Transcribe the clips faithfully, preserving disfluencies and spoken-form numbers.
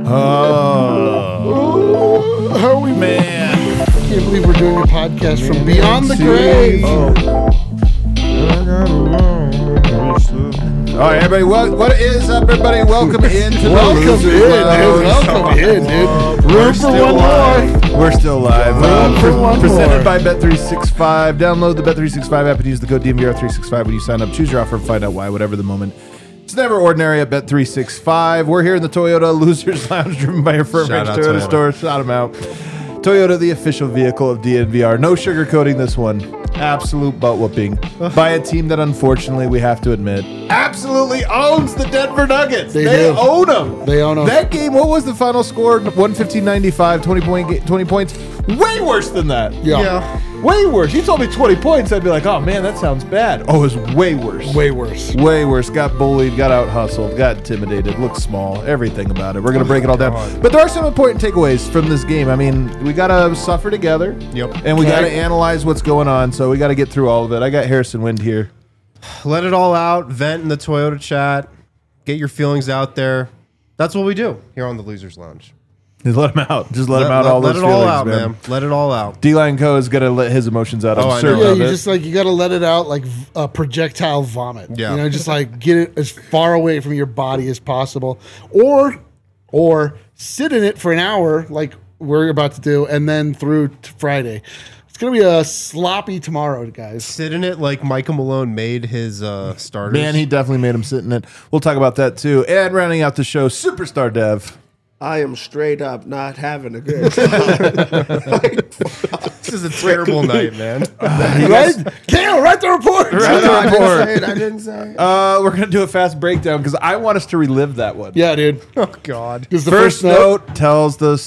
Oh, how are we, man! I can't believe we're doing a podcast from beyond the grave. Oh. All right, everybody. What, what is up, everybody? Welcome into the Welcome Losers in, Lounge. dude. Welcome in, dude. Room for one live. more. We're still live. Room Uh, for pre- one presented more. by Bet three sixty-five. Download the Bet three sixty-five app and use the code D M V R three sixty-five when you sign up. Choose your offer and find out why, whatever the moment. It's never ordinary at Bet three sixty-five. We're here in the Toyota Losers Lounge, driven by your firm Shout Toyota, out Toyota. store. Shout them out. Toyota, the official vehicle of D N V R. No sugarcoating this one. Absolute butt whooping by a team that, unfortunately, we have to admit, absolutely owns the Denver Nuggets. They They, do. own them. They own 'em. That game, what was the final score? one fifteen ninety-five, twenty, point, ga- twenty points. Way worse than that. Yeah. Way worse. You told me twenty points, I'd be like, oh man, that sounds bad. Oh, it was way worse. Way worse. Way worse. Got bullied, got out hustled, got intimidated, looked small, everything about it. We're going to break it all down. But there are some important takeaways from this game. I mean, we got to suffer together. Yep. And we Okay. got to analyze what's going on. So we got to get through all of it. I got Harrison Wind here. Let it all out. Vent in the Toyota chat. Get your feelings out there. That's what we do here on the Losers Lounge. Just let him out. Just let, him out all let those it all feelings, out, man. man. Let it all out. D-Line Co. is going to let his emotions out. I'm Oh, I certain know. Yeah, of you it. just like you got to let it out like v- a projectile vomit. Yeah. You know, just like get it as far away from your body as possible, or or sit in it for an hour, like we're about to do, and then through to Friday. It's gonna be a sloppy tomorrow, guys. Sit in it like Michael Malone made his uh, starters. Man, he definitely made him sit in it. We'll talk about that too. And rounding out the show, Superstar Dev. I am straight up not having a good time. This is a terrible night, man. Right? Cam, write the report. Write the I didn't report. say it. I didn't say it. Uh, we're gonna do a fast breakdown because I want us to relive that one. Yeah, dude. Oh, God. Because the First, first, note, note tells the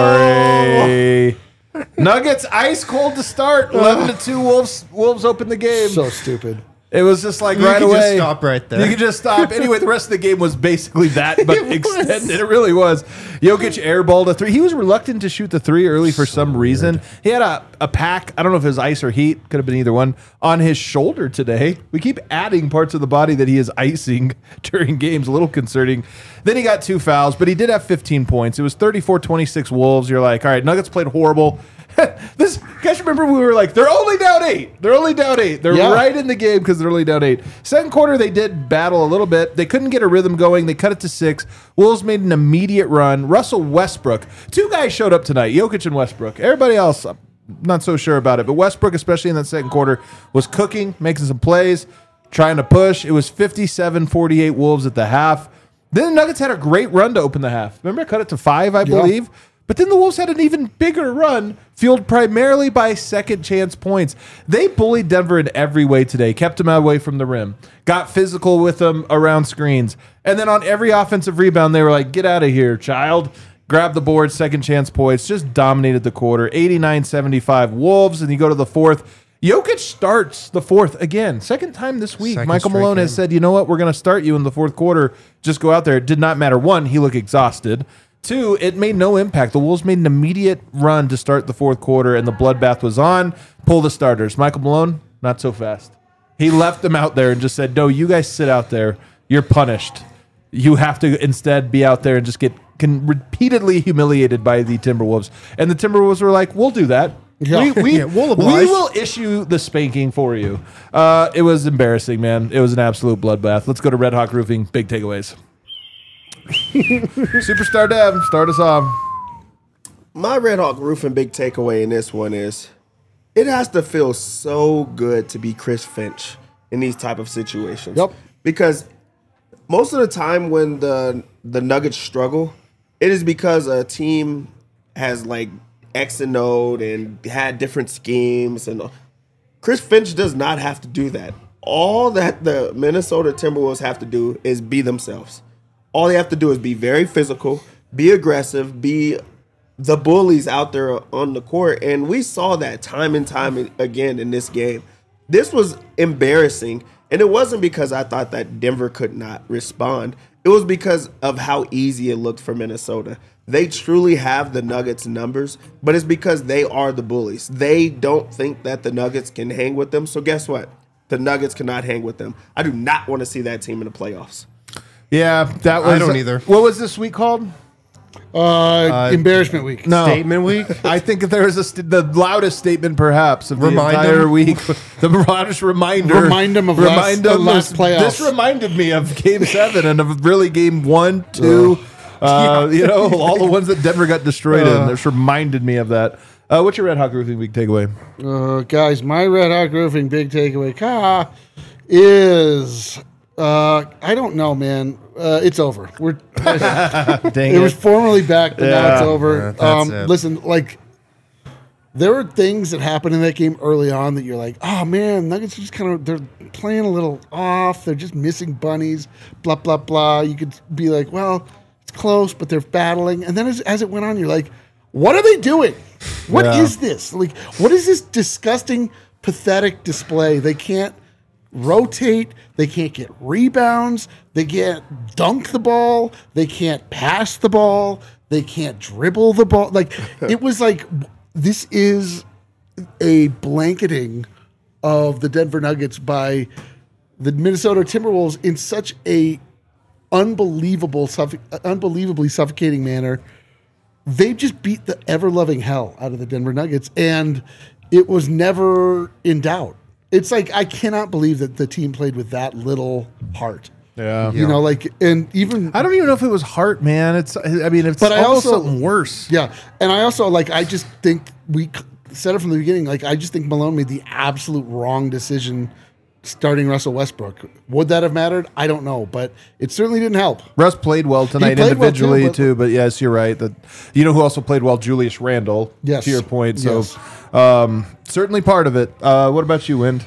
story. Nuggets ice cold to start. Eleven to two. Wolves. Wolves open the game. so stupid. It was just like You right can away. just stop right there. You could just stop. Anyway, the rest of the game was basically that, but It was. extended. It really was. Jokic airballed a three. He was reluctant to shoot the three early for some reason. He had a, a pack, I don't know if it was ice or heat, could have been either one, on his shoulder today. We keep adding parts of the body that he is icing during games. A little concerning. Then he got two fouls, but he did have fifteen points. It was thirty-four twenty-six Wolves. You're like, all right, Nuggets played horrible. This guys, remember we were like, they're only down eight. They're only down eight. They're Yeah. right in the game because they're only down eight. Second quarter, they did battle a little bit. They couldn't get a rhythm going. They cut it to six. Wolves made an immediate run. Russell Westbrook, two guys showed up tonight, Jokic and Westbrook. Everybody else, I'm not so sure about it, but Westbrook, especially in that second quarter, was cooking, making some plays, trying to push. It was fifty-seven forty-eight Wolves at the half. Then the Nuggets had a great run to open the half. Remember, I cut it to five, I Yeah. believe. But then the Wolves had an even bigger run, fueled primarily by second chance points. They bullied Denver in every way today, kept them away from the rim, got physical with them around screens. And then on every offensive rebound, they were like, get out of here, child. Grab the board, second chance points, just dominated the quarter. eighty-nine seventy-five Wolves, and you go to the fourth. Jokic starts the fourth again. Second time this week. Second Michael straight Malone has game. said, you know what, we're going to start you in the fourth quarter. Just go out there. It did not matter. One, he looked exhausted. Two, it made no impact. The Wolves made an immediate run to start the fourth quarter, and the bloodbath was on. Pull the starters. Michael Malone, not so fast. He left them out there and just said, no, you guys sit out there. You're punished. You have to instead be out there and just get can repeatedly humiliated by the Timberwolves. And the Timberwolves were like, we'll do that. Yeah. We, we, Yeah, we'll we oblige. will issue the spanking for you. Uh, it was embarrassing, man. It was an absolute bloodbath. Let's go to Red Hawk Roofing. Big takeaways. Superstar Dev, start us off. My Red Hawk Roofing big takeaway in this one is it has to feel so good to be Chris Finch in these type of situations. Yep. Because most of the time when the the Nuggets struggle, it is because a team has like X and O and had different schemes, and Chris Finch does not have to do that. All that the Minnesota Timberwolves have to do is be themselves. All they have to do is be very physical, be aggressive, be the bullies out there on the court. And we saw that time and time again in this game. This was embarrassing. And it wasn't because I thought that Denver could not respond. It was because of how easy it looked for Minnesota. They truly have the Nuggets numbers, but it's because they are the bullies. They don't think that the Nuggets can hang with them. So guess what? The Nuggets cannot hang with them. I do not want to see that team in the playoffs. Yeah, that was. I don't either. What was this week called? Uh, embarrassment week. No. Statement week. I think if there was a st- the loudest statement perhaps of Remind the entire him. week, the loudest reminder. Remind him of last- the last playoffs. This reminded me of Game Seven and of really Game One, Two. Uh, you know, all the ones that Denver got destroyed in. This reminded me of that. Uh, what's your Red Hawk Roofing Week takeaway? Uh, guys, my Red Hawk Roofing big takeaway ka, is uh, I don't know, man. Uh, it's over. We're Dang it was formerly back, but now Yeah. it's over. Yeah, that's um, it. Listen, like there were things that happened in that game early on that you're like, oh man, Nuggets are just kind of they're playing a little off. They're just missing bunnies. Blah blah blah. You could be like, well, it's close, but they're battling. And then as, as it went on, you're like, what are they doing? What is Yeah. this? Like, what is this disgusting, pathetic display? They can't rotate. They can't get rebounds. They can't dunk the ball. They can't pass the ball. They can't dribble the ball. Like, it was like, this is a blanketing of the Denver Nuggets by the Minnesota Timberwolves in such a unbelievable, suffo- unbelievably suffocating manner. They just beat the ever-loving hell out of the Denver Nuggets, and it was never in doubt. It's like, I cannot believe that the team played with that little heart. Yeah. You know, like, and even, I don't even know if it was heart, man. It's, I mean, it's But I almost also- something worse. yeah. And I also, like, I just think we c- said it from the beginning. Like, I just think Malone made the absolute wrong decision starting Russell Westbrook. Would that have mattered? I don't know, but it certainly didn't help. Russ played well tonight played well too, individually but- too, but yes, you're right. That you know who also played well, Julius Randle. Yes. To your point, so Yes. um, certainly part of it. Uh, what about you, Wind?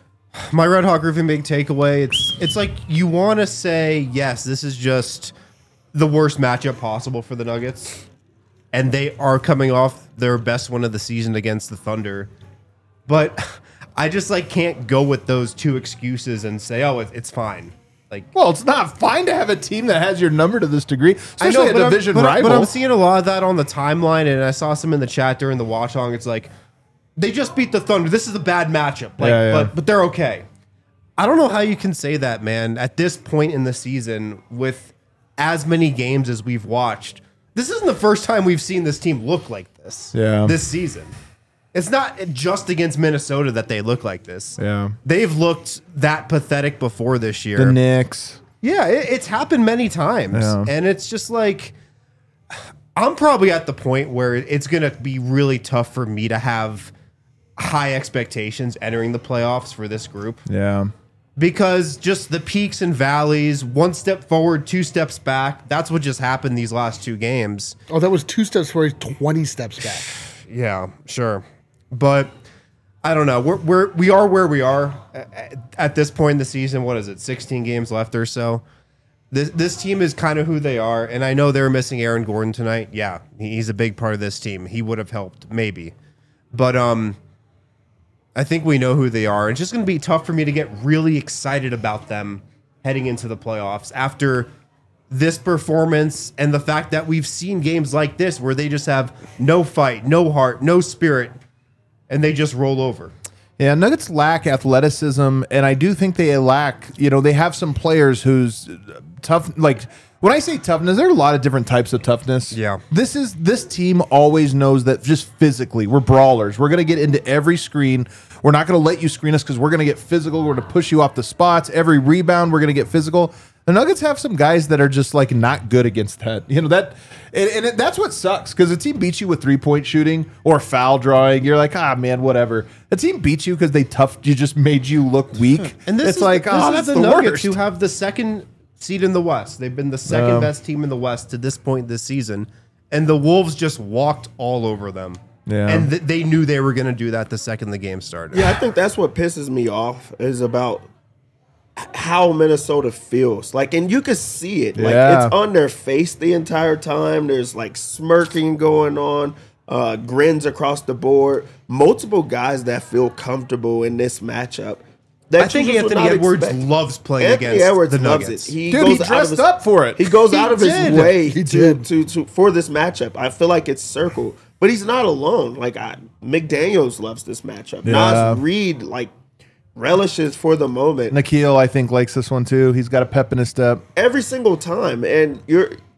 My Red Hawk Roofing big takeaway. It's it's like you want to say yes, this is just the worst matchup possible for the Nuggets, and they are coming off their best one of the season against the Thunder, but I just like can't go with those two excuses and say, oh, it, it's fine. Like, Well, it's not fine to have a team that has your number to this degree, I especially know, a but I'm- division but, I'm- rival. but I'm seeing a lot of that on the timeline, and I saw some in the chat during the watch along. It's like they just beat the Thunder. This is a bad matchup, like, Yeah, yeah. but but they're okay. I don't know how you can say that, man. At this point in the season, with as many games as we've watched, this isn't the first time we've seen this team look like this. Yeah. This season, it's not just against Minnesota that they look like this. Yeah. They've looked that pathetic before this year. the Knicks. Yeah, it, it's happened many times. Yeah. And it's just like, I'm probably at the point where it's going to be really tough for me to have high expectations entering the playoffs for this group, Yeah. because just the peaks and valleys, one step forward, two steps back, that's what just happened these last two games. Oh, that was two steps forward, twenty steps back. Yeah, sure. But I don't know. We're, we're, we are where we are at, at this point in the season. What is it? sixteen games left or so. This this team is kind of who they are. And I know they were missing Aaron Gordon tonight. Yeah, he's a big part of this team. He would have helped, maybe. But um, I think we know who they are. It's just going to be tough for me to get really excited about them heading into the playoffs after this performance and the fact that we've seen games like this where they just have no fight, no heart, no spirit, and they just roll over. Yeah, Nuggets lack athleticism, and I do think they lack, you know, they have some players who's tough, like, when I say toughness, there are a lot of different types of toughness. Yeah. This is, this team always knows that just physically, we're brawlers. We're going to get into every screen. We're not going to let you screen us because we're going to get physical. We're going to push you off the spots. Every rebound, we're going to get physical. The Nuggets have some guys that are just like not good against that. You know, that, and, and it, that's what sucks because the team beats you with three point shooting or foul drawing. You're like, ah, man, whatever. The team beats you because they tough, you just made you look weak. And this it's is like, the, oh, this that's is the, the, Nuggets worst. who have the second seed in the West. They've been the second Yeah. best team in the West to this point this season, and the Wolves just walked all over them. Yeah. And th- they knew they were going to do that the second the game started. Yeah, I think that's what pisses me off is about h- how Minnesota feels. Like, and you can see it. Like, Yeah. it's on their face the entire time. There's like smirking going on, uh, grins across the board. Multiple guys that feel comfortable in this matchup. That I think you just would Anthony not Edwards expect. loves playing Anthony against Edwards the loves Nuggets. it. He Dude, he goes out of dressed his- up for it. He goes He out of did. his way He to, did. to, to for this matchup. I feel like it's circle, but he's not alone. Like I, McDaniels loves this matchup. Yeah. Nas Reed like relishes for the moment Nikhil, I think, likes this one too. He's got a pep in his step. every single time, and you're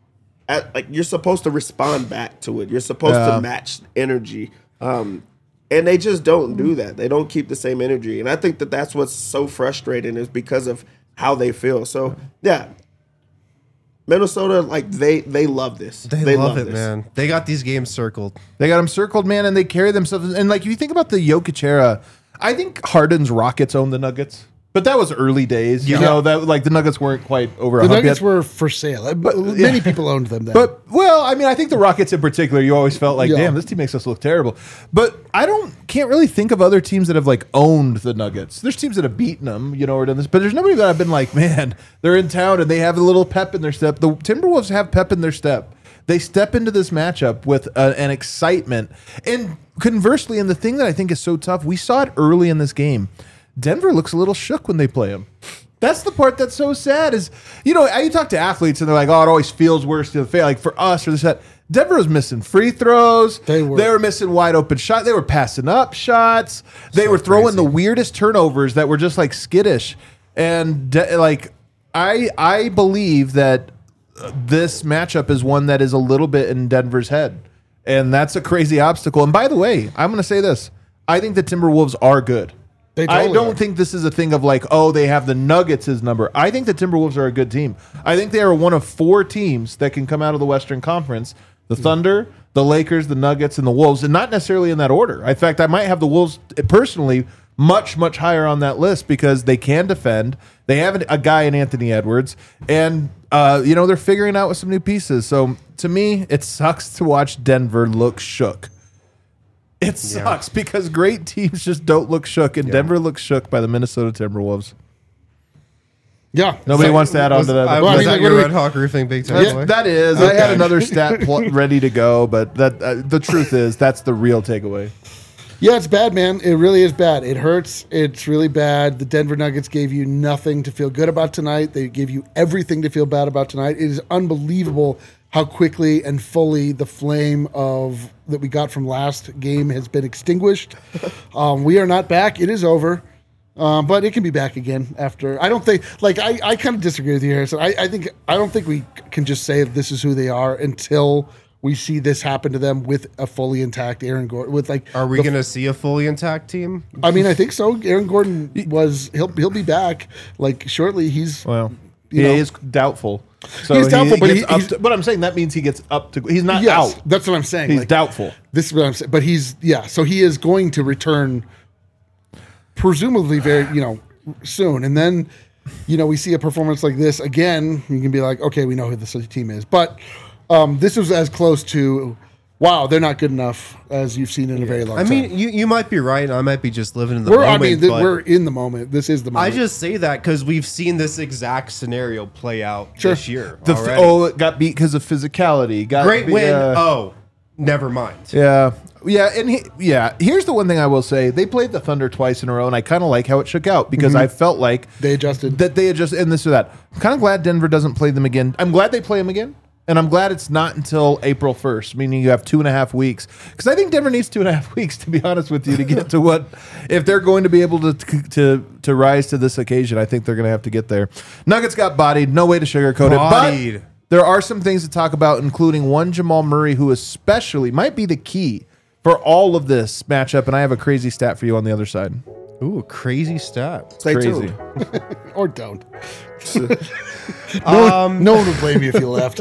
at, like you're supposed to respond back to it. You're supposed Yeah. to match energy. Um, and they just don't do that. They don't keep the same energy. And I think that that's what's so frustrating is because of how they feel. So, yeah. Minnesota, like they they love this. They, love, it, this. man. They got these games circled. They got them circled, man, and they carry themselves. And like, if you think about the Jokic era, I think Harden's Rockets owned the Nuggets, but that was early days. You Yeah. know that like the Nuggets weren't quite over. The a hump Nuggets yet. were for sale. Uh, Many people owned them then. But well, I mean, I think the Rockets in particular, you always felt like, Yeah. damn, this team makes us look terrible. But I don't, can't really think of other teams that have like owned the Nuggets. There's teams that have beaten them, you know, or done this, but there's nobody that I've been like, man, they're in town and they have a little pep in their step. The Timberwolves have pep in their step. They step into this matchup with uh, an excitement. And conversely, and the thing that I think is so tough, we saw it early in this game. Denver looks a little shook when they play them. That's the part that's so sad is, you know, you talk to athletes and they're like, oh, it always feels worse to the face. Like for us or this, that. Denver was missing free throws. They were. They were missing wide open shots. They were passing up shots. They were throwing crazy. the weirdest turnovers that were just like skittish. And de- like, I I believe that uh, this matchup is one that is a little bit in Denver's head. And that's a crazy obstacle. And by the way, I'm going to say this. I think the Timberwolves are good. They I totally don't are. think this is a thing of like, oh, they have the Nuggets as number. I think the Timberwolves are a good team. I think they are one of four teams that can come out of the Western Conference: the Thunder, the Lakers, the Nuggets, and the Wolves, and not necessarily in that order. In fact, I might have the Wolves personally much, much higher on that list because they can defend. They have a guy in Anthony Edwards, and uh, you know they're figuring out with some new pieces. So to me, it sucks to watch Denver look shook. It sucks because great teams just don't look shook, and Denver looks shook by the Minnesota Timberwolves. yeah. Nobody So- wants to add on to that. I, Well, I was mean, that like, your what do Red we- Hawk roofing big time? That's- boy? that is. I had another stat pl- ready to go, but that uh, the truth is that's the real takeaway. Yeah, it's bad, man. It really is bad. It hurts. It's really bad. The Denver Nuggets gave you nothing to feel good about tonight. They gave you everything to feel bad about tonight. It is unbelievable how quickly and fully the flame of that we got from last game has been extinguished. Um, we are not back. It is over. Um, but it can be back again after. I don't think, like, I, I kind of disagree with you, Harrison. I, I think, I don't think we can just say this is who they are until we see this happen to them with a fully intact Aaron Gordon. With like, Are we the going to see a fully intact team? I mean, I think so. Aaron Gordon was he'll he'll be back like shortly. He's Well, You he know. is doubtful. So He's doubtful, but gets he- up he's- to- but I'm saying that means he gets up to. He's not yes, out. that's what I'm saying. He's Like, doubtful. This is what I'm saying. But he's yeah. So he is going to return, presumably very you know soon, and then you know we see a performance like this again. You can be like, okay, we know who this team is, but um, this was as close to. Wow, they're not good enough as you've seen in a very long I time. mean, you, you might be right. I might be just living in the we're moment. I mean, th- but we're in the moment. This is the I moment. just say that because we've seen this exact scenario play out Sure. this year. The f- already. oh, it got beat because of physicality. Got Great beat- win. uh, oh, never mind. Yeah. Yeah, and he, yeah, here's the one thing I will say. They played the Thunder twice in a row, and I kind of like how it shook out because I felt like They adjusted. that they adjusted and this or that. I'm kind of glad Denver doesn't play them again. I'm glad they play them again, and I'm glad it's not until April first, meaning you have two and a half weeks. Because I think Denver needs two and a half weeks, to be honest with you, to get to what if they're going to be able to to to rise to this occasion. I think they're going to have to get there. Nuggets got bodied. No way to sugarcoat Bodied. it. But there are some things to talk about, including one Jamal Murray, who especially might be the key for all of this matchup. And I have a crazy stat for you on the other side. Ooh, crazy stat. Stay Crazy. tuned. or don't. no, one, no one would blame you if you left.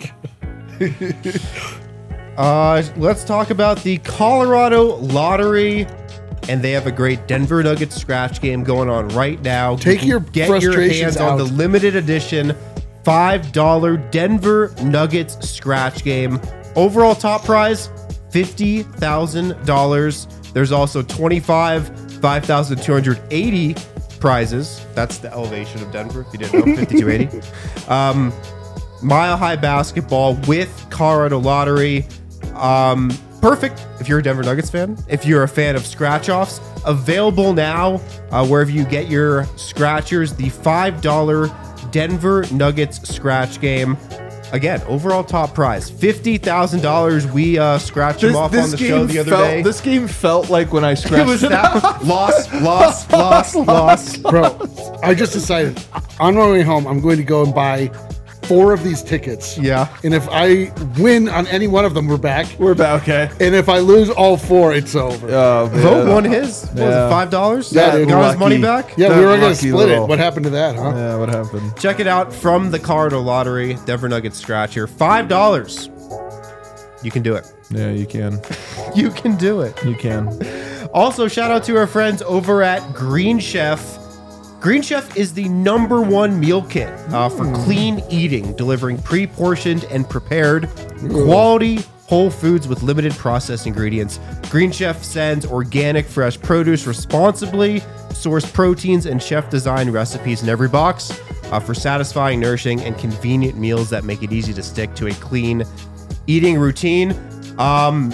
Uh, let's talk about the Colorado Lottery. And they have a great Denver Nuggets scratch game going on right now. Take You your can get your frustrations hands on the out. limited edition five dollar Denver Nuggets scratch game. Overall top prize fifty thousand dollars. There's also twenty-five, five thousand two hundred eighty prizes. That's the elevation of Denver, if you didn't know, fifty-two eighty. Um, Mile High Basketball with Colorado Lottery. Um, perfect if you're a Denver Nuggets fan. If you're a fan of scratch-offs, available now uh, wherever you get your scratchers. The five dollar Denver Nuggets scratch game. Again, overall top prize, fifty thousand dollars. We uh, scratched them off on the show the other felt, day. This game felt like when I scratched It was it that loss, loss, loss, loss. Bro, I just decided on my way home, I'm going to go and buy four of these tickets. Yeah. And if I win on any one of them, we're back. We're back. Okay. And if I lose all four, it's over. Oh, man. Vote won his. What was Yeah. it, five dollars? Yeah, dude. Got his Lucky. money back? yeah, that we were going to lucky split little- it. What happened to that, huh? Yeah, what happened? Check it out from the Colorado Lottery, Denver Nuggets Scratcher. five dollars. You can do it. Yeah, you can. You can do it. You can. Also, shout out to our friends over at Green Chef. Green Chef is the number one meal kit uh, for clean eating, delivering pre-portioned and prepared quality whole foods with limited processed ingredients. Green Chef sends organic, fresh produce responsibly, sourced proteins, and chef-designed recipes in every box uh, for satisfying, nourishing, and convenient meals that make it easy to stick to a clean eating routine. Um,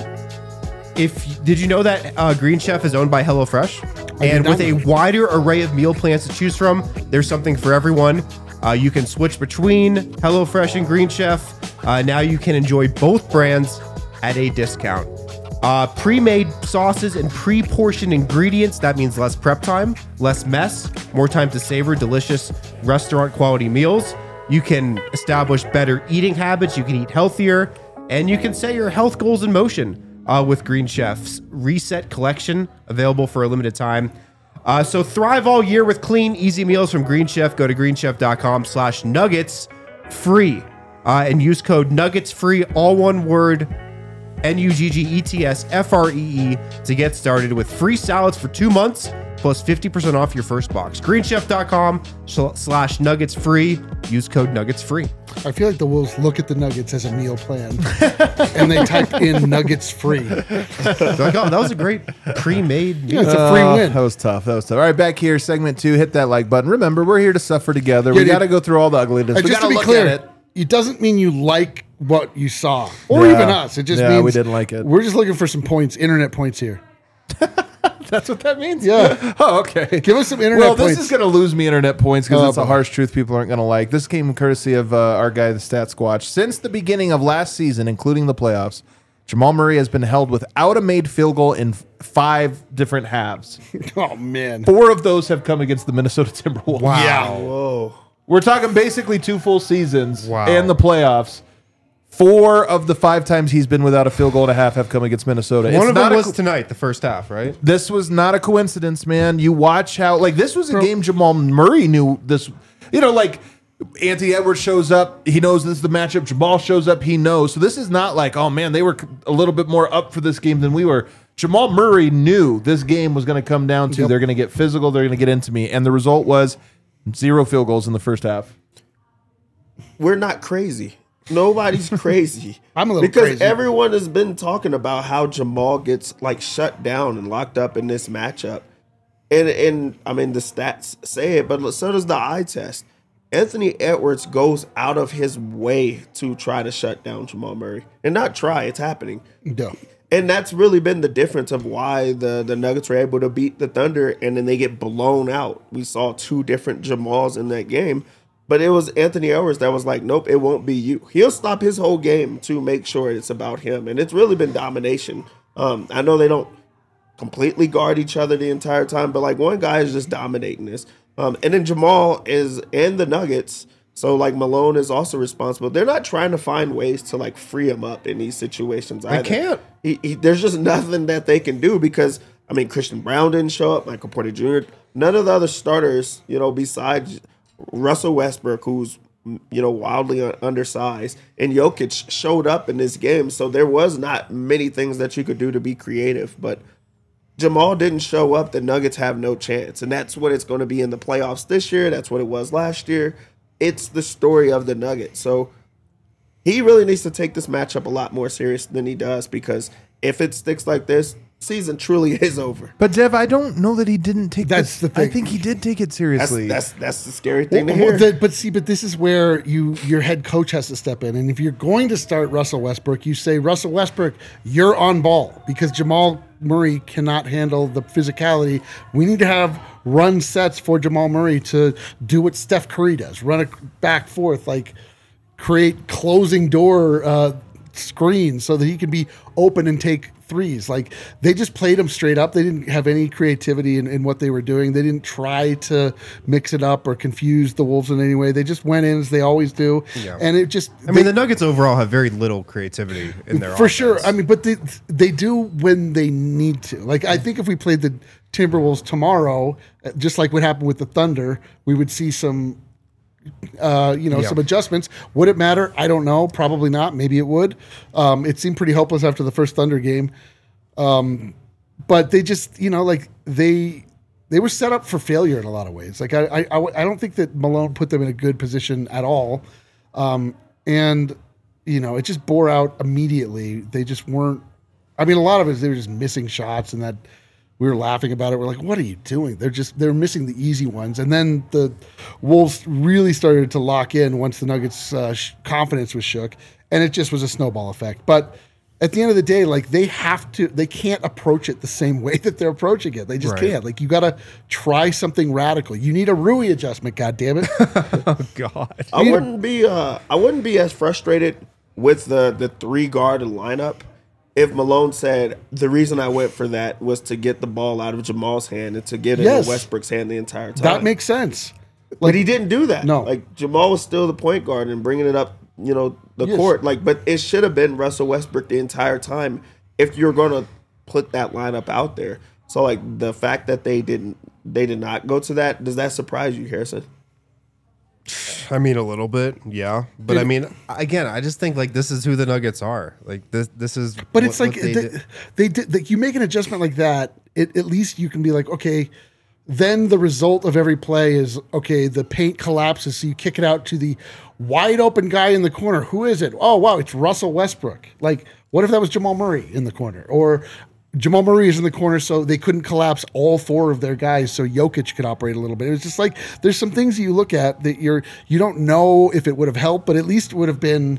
if did you know that uh, Green Chef is owned by HelloFresh? I And did with not a know. wider array of meal plans to choose from, there's something for everyone. Uh, you can switch between HelloFresh and Green Chef. Uh, now you can enjoy both brands at a discount. Uh, pre-made sauces and pre-portioned ingredients. That means less prep time, less mess, more time to savor delicious restaurant quality meals. You can establish better eating habits. You can eat healthier, and you can set your health goals in motion uh, with Green Chef's Reset Collection, available for a limited time. Uh, so thrive all year with clean, easy meals from Green Chef. Go to greenchef.com slash nuggets free uh, and use code nuggets free, all one word, N U G G E T S F R E E, to get started with free salads for two months plus fifty percent off your first box. greenchef.com slash nuggets free. Use code nuggets free. I feel like the Wolves look at the Nuggets as a meal plan, and they type in Nuggets free. They're like, oh, that was a great pre-made Yeah, meal. it's a free Uh, win. That was tough. That was tough. All right, back here, segment two. Hit that like button. Remember, we're here to suffer together. Yeah, we dude. got to go through all the ugliness. Uh, we just got to be look clear, at it. it doesn't mean you like what you saw, or Yeah. even us. It just Yeah, means we didn't like it. We're just looking for some points, internet points here. That's what that means? Yeah. Oh, okay. Give us some internet Well, this points. is going to lose me internet points because Oh, it's a boy. harsh truth people aren't going to like. This came courtesy of uh, our guy, the Stat Squatch. Since the beginning of last season, including the playoffs, Jamal Murray has been held without a made field goal in f- five different halves. Oh man. Four of those have come against the Minnesota Timberwolves. Yeah. Whoa. We're talking basically two full seasons Wow. and the playoffs. Four of the five times he's been without a field goal and a half have come against Minnesota. One It's of not them a was co- tonight, the first half, right? This was not a coincidence, man. You watch how, like, this was a game Jamal Murray knew this. You know, like, Anthony Edwards shows up. He knows this is the matchup. Jamal shows up. He knows. So this is not like, oh, man, they were a little bit more up for this game than we were. Jamal Murray knew this game was going to come down to Yep. they're going to get physical. They're going to get into me. And the result was zero field goals in the first half. We're not crazy. Nobody's crazy. I'm a little because crazy. everyone has been talking about how Jamal gets like shut down and locked up in this matchup. And and I mean the stats say it, but so does the eye test. Anthony Edwards goes out of his way to try to shut down Jamal Murray. And not try, it's happening. No. And that's really been the difference of why the, the Nuggets were able to beat the Thunder and then they get blown out. We saw two different Jamals in that game. But it was Anthony Edwards that was like, nope, it won't be you. He'll stop his whole game to make sure it's about him. And it's really been domination. Um, I know they don't completely guard each other the entire time, but like one guy is just dominating this. Um, and then Jamal is and the Nuggets. So like Malone is also responsible. They're not trying to find ways to like free him up in these situations. Either. can't. He, he, there's just nothing that they can do because I mean Christian Brown didn't show up, Michael Porter Junior None of the other starters, you know, besides Russell Westbrook, who's you know wildly un- undersized, and Jokic showed up in this game. So there was not many things that you could do to be creative, but Jamal didn't show up. The Nuggets have no chance, and that's what it's going to be in the playoffs this year. That's what it was last year. It's the story of the Nuggets. So he really needs to take this matchup a lot more serious than he does because if it sticks like this, season truly is over. But, Dev, I don't know that he didn't take That's this. the thing. I think he did take it That's seriously. that's that's the scary thing Well, to hear. the- but see, but this is where you your head coach has to step in. And if you're going to start Russell Westbrook, you say, Russell Westbrook, you're on ball because Jamal Murray cannot handle the physicality. We need to have run sets for Jamal Murray to do what Steph Curry does, run it back forth, like create closing door uh, screens so that he can be open and take threes. Like they just played them straight up. They didn't have any creativity in, in what they were doing. They didn't try to mix it up or confuse the Wolves in any way. They just went in as they always do. Yeah. And it just, I mean, the Nuggets overall have very little creativity in their for offense. sure. I mean, but they, they do when they need to. Like, I think if we played the Timberwolves tomorrow, uh, just like what happened with the Thunder, we would see some, uh, you know, Yeah. some adjustments. Would it matter? I don't know. Probably not. Maybe it would. Um, it seemed pretty hopeless after the first Thunder game. Um, but they just, you know, like they they were set up for failure in a lot of ways. Like I, I, I don't think that Malone put them in a good position at all. Um, and you know, it just bore out immediately. They just weren't. I mean, a lot of it is they were just missing shots, and that we were laughing about it. We're like, "What are you doing?" They're just they're missing the easy ones. And then the Wolves really started to lock in once the Nuggets' uh, sh- confidence was shook, and it just was a snowball effect. But at the end of the day, like they have to, they can't approach it the same way that they're approaching it. They just Right. can't. Like you got to try something radical. You need a Rui adjustment. God damn it! Oh God. I wouldn't be uh I wouldn't be as frustrated with the the three guard lineup if Malone said the reason I went for that was to get the ball out of Jamal's hand and to get it Yes. in Westbrook's hand the entire time. That makes sense. but he didn't do that. No. Like Jamal was still the point guard and bringing it up, you know, the Yes. court. Like, but it should have been Russell Westbrook the entire time if you're going to put that lineup out there. So like the fact that they didn't, they did not go to that. Does that surprise you, Harrison? I mean, a little bit, yeah. But I mean, again, I just think like this is who the Nuggets are. Like this, this is. But what- it's like what they they, did. they did. Like you make an adjustment like that, it, at least you can be like, okay. Then the result of every play is okay. The paint collapses, so you kick it out to the wide open guy in the corner. Who is it? Oh wow, it's Russell Westbrook. Like, what if that was Jamal Murray in the corner, or Jamal Murray is in the corner, so they couldn't collapse all four of their guys, so Jokic could operate a little bit. It was just like there's some things you look at that you're you don't know if it would have helped, but at least it would have been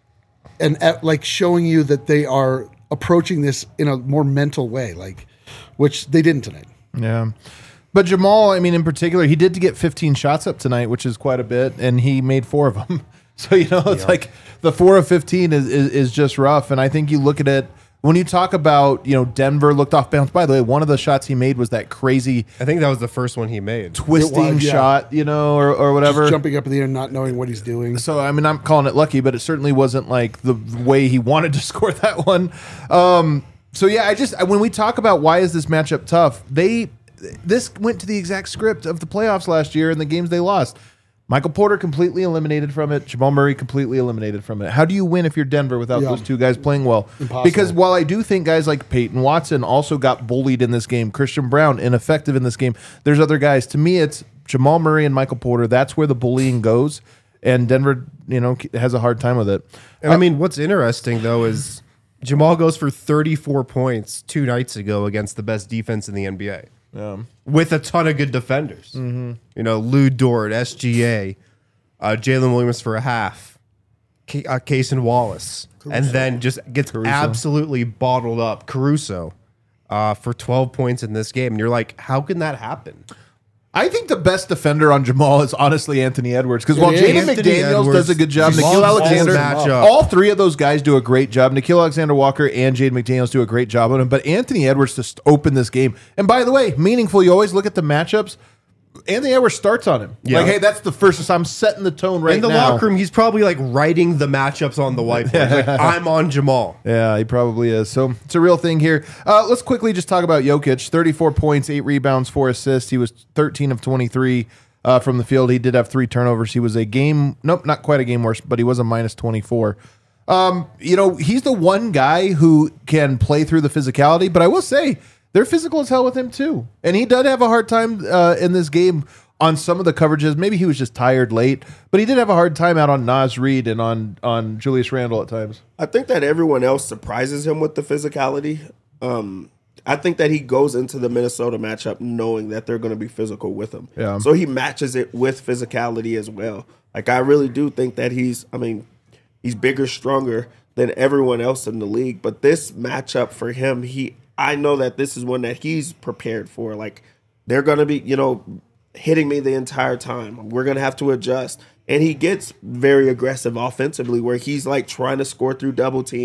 and like showing you that they are approaching this in a more mental way, like which they didn't tonight. Yeah. But Jamal, I mean, in particular, he did get fifteen shots up tonight, which is quite a bit, and he made four of them. So, you know, it's Yeah. like the four of fifteen is, is, is just rough. And I think you look at it, when you talk about, you know, Denver looked off balance. By the way, one of the shots he made was that crazy I think that was the first one he made. twisting yeah. shot, you know, or, or whatever. Just jumping up in the air, not knowing what he's doing. So, I mean, I'm calling it lucky, but it certainly wasn't like the way he wanted to score that one. Um, so, yeah, I just, when we talk about why is this matchup tough, they, this went to the exact script of the playoffs last year and the games they lost. Michael Porter completely eliminated from it. Jamal Murray completely eliminated from it. How do you win if you're Denver without Yeah. those two guys playing well? Impossible. Because while I do think guys like Peyton Watson also got bullied in this game, Christian Brown ineffective in this game, there's other guys. To me, it's Jamal Murray and Michael Porter. That's where the bullying goes. And Denver, you know, has a hard time with it. And I mean, what's interesting though is Jamal goes for thirty-four points two nights ago against the best defense in the N B A. With a ton of good defenders. Mm-hmm. You know, Lou Dort, S G A, uh, Jalen Williams for a half, K- uh, Cason Wallace, and then just gets absolutely bottled up. Caruso uh, for twelve points in this game. And you're like, how can that happen? I think the best defender on Jamal is honestly Anthony Edwards. Because while It is. Jaden Anthony McDaniels Edwards does a good job, just Nikhil loves Alexander, this matchup. all three of those guys do a great job. Nikhil Alexander Walker and Jaden McDaniels do a great job on him. But Anthony Edwards just opened this game. And by the way, meaningful, you always look at the matchups. Anthony Edwards starts on him. Yeah. Like, hey, that's the first. I'm setting the tone right in the now. locker room, he's probably like writing the matchups on the whiteboard. He's like, I'm on Jamal. Yeah, he probably is. So it's a real thing here. Uh, let's quickly just talk about Jokic. thirty-four points, eight rebounds, four assists. He was thirteen of twenty-three uh, from the field. He did have three turnovers. He was a game, nope, not quite a game worse, but he was a minus twenty-four. Um, you know, he's the one guy who can play through the physicality, but I will say they're physical as hell with him too. And he did have a hard time uh, in this game on some of the coverages. Maybe he was just tired late, but he did have a hard time out on Naz Reid and on, on Julius Randle at times. I think that everyone else surprises him with the physicality. Um, I think that he goes into the Minnesota matchup knowing that they're going to be physical with him. Yeah. So he matches it with physicality as well. Like, I really do think that he's, I mean, he's bigger, stronger than everyone else in the league. But this matchup for him, he, I know that this is one that he's prepared for. Like, they're going to be, you know, hitting me the entire time. We're going to have to adjust. And he gets very aggressive offensively where he's like trying to score through double teams,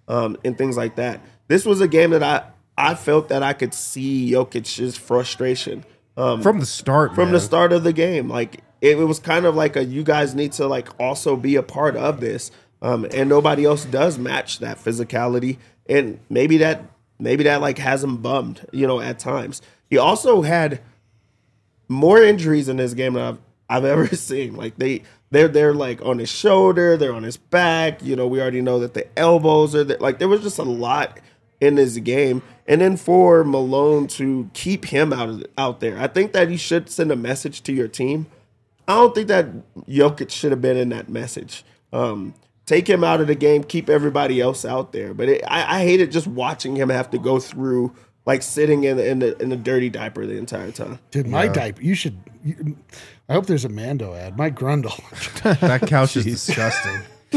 um, and things like that. This was a game that I, I felt that I could see Jokic's frustration um, From the start, from man. the start of the game. Like it, it was kind of like a you guys need to like also be a part of this, um, and nobody else does match that physicality, and maybe that maybe that like has him bummed, you know, at times. He also had more injuries in this game than I've I've ever seen. Like they they're they're like on his shoulder, they're on his back. You know, we already know that the elbows are there. Like there was just a lot in this game. And then for Malone to keep him out of, out there, I think that he should send a message to your team. I don't think that Jokic should have been in that message. Um, take him out of the game, keep everybody else out there. But it, I, I hated just watching him have to go through like sitting in the, in the in the dirty diaper the entire time. Dude, my diaper. You should. You, I hope there's a Mando ad. My grundle. That couch is disgusting.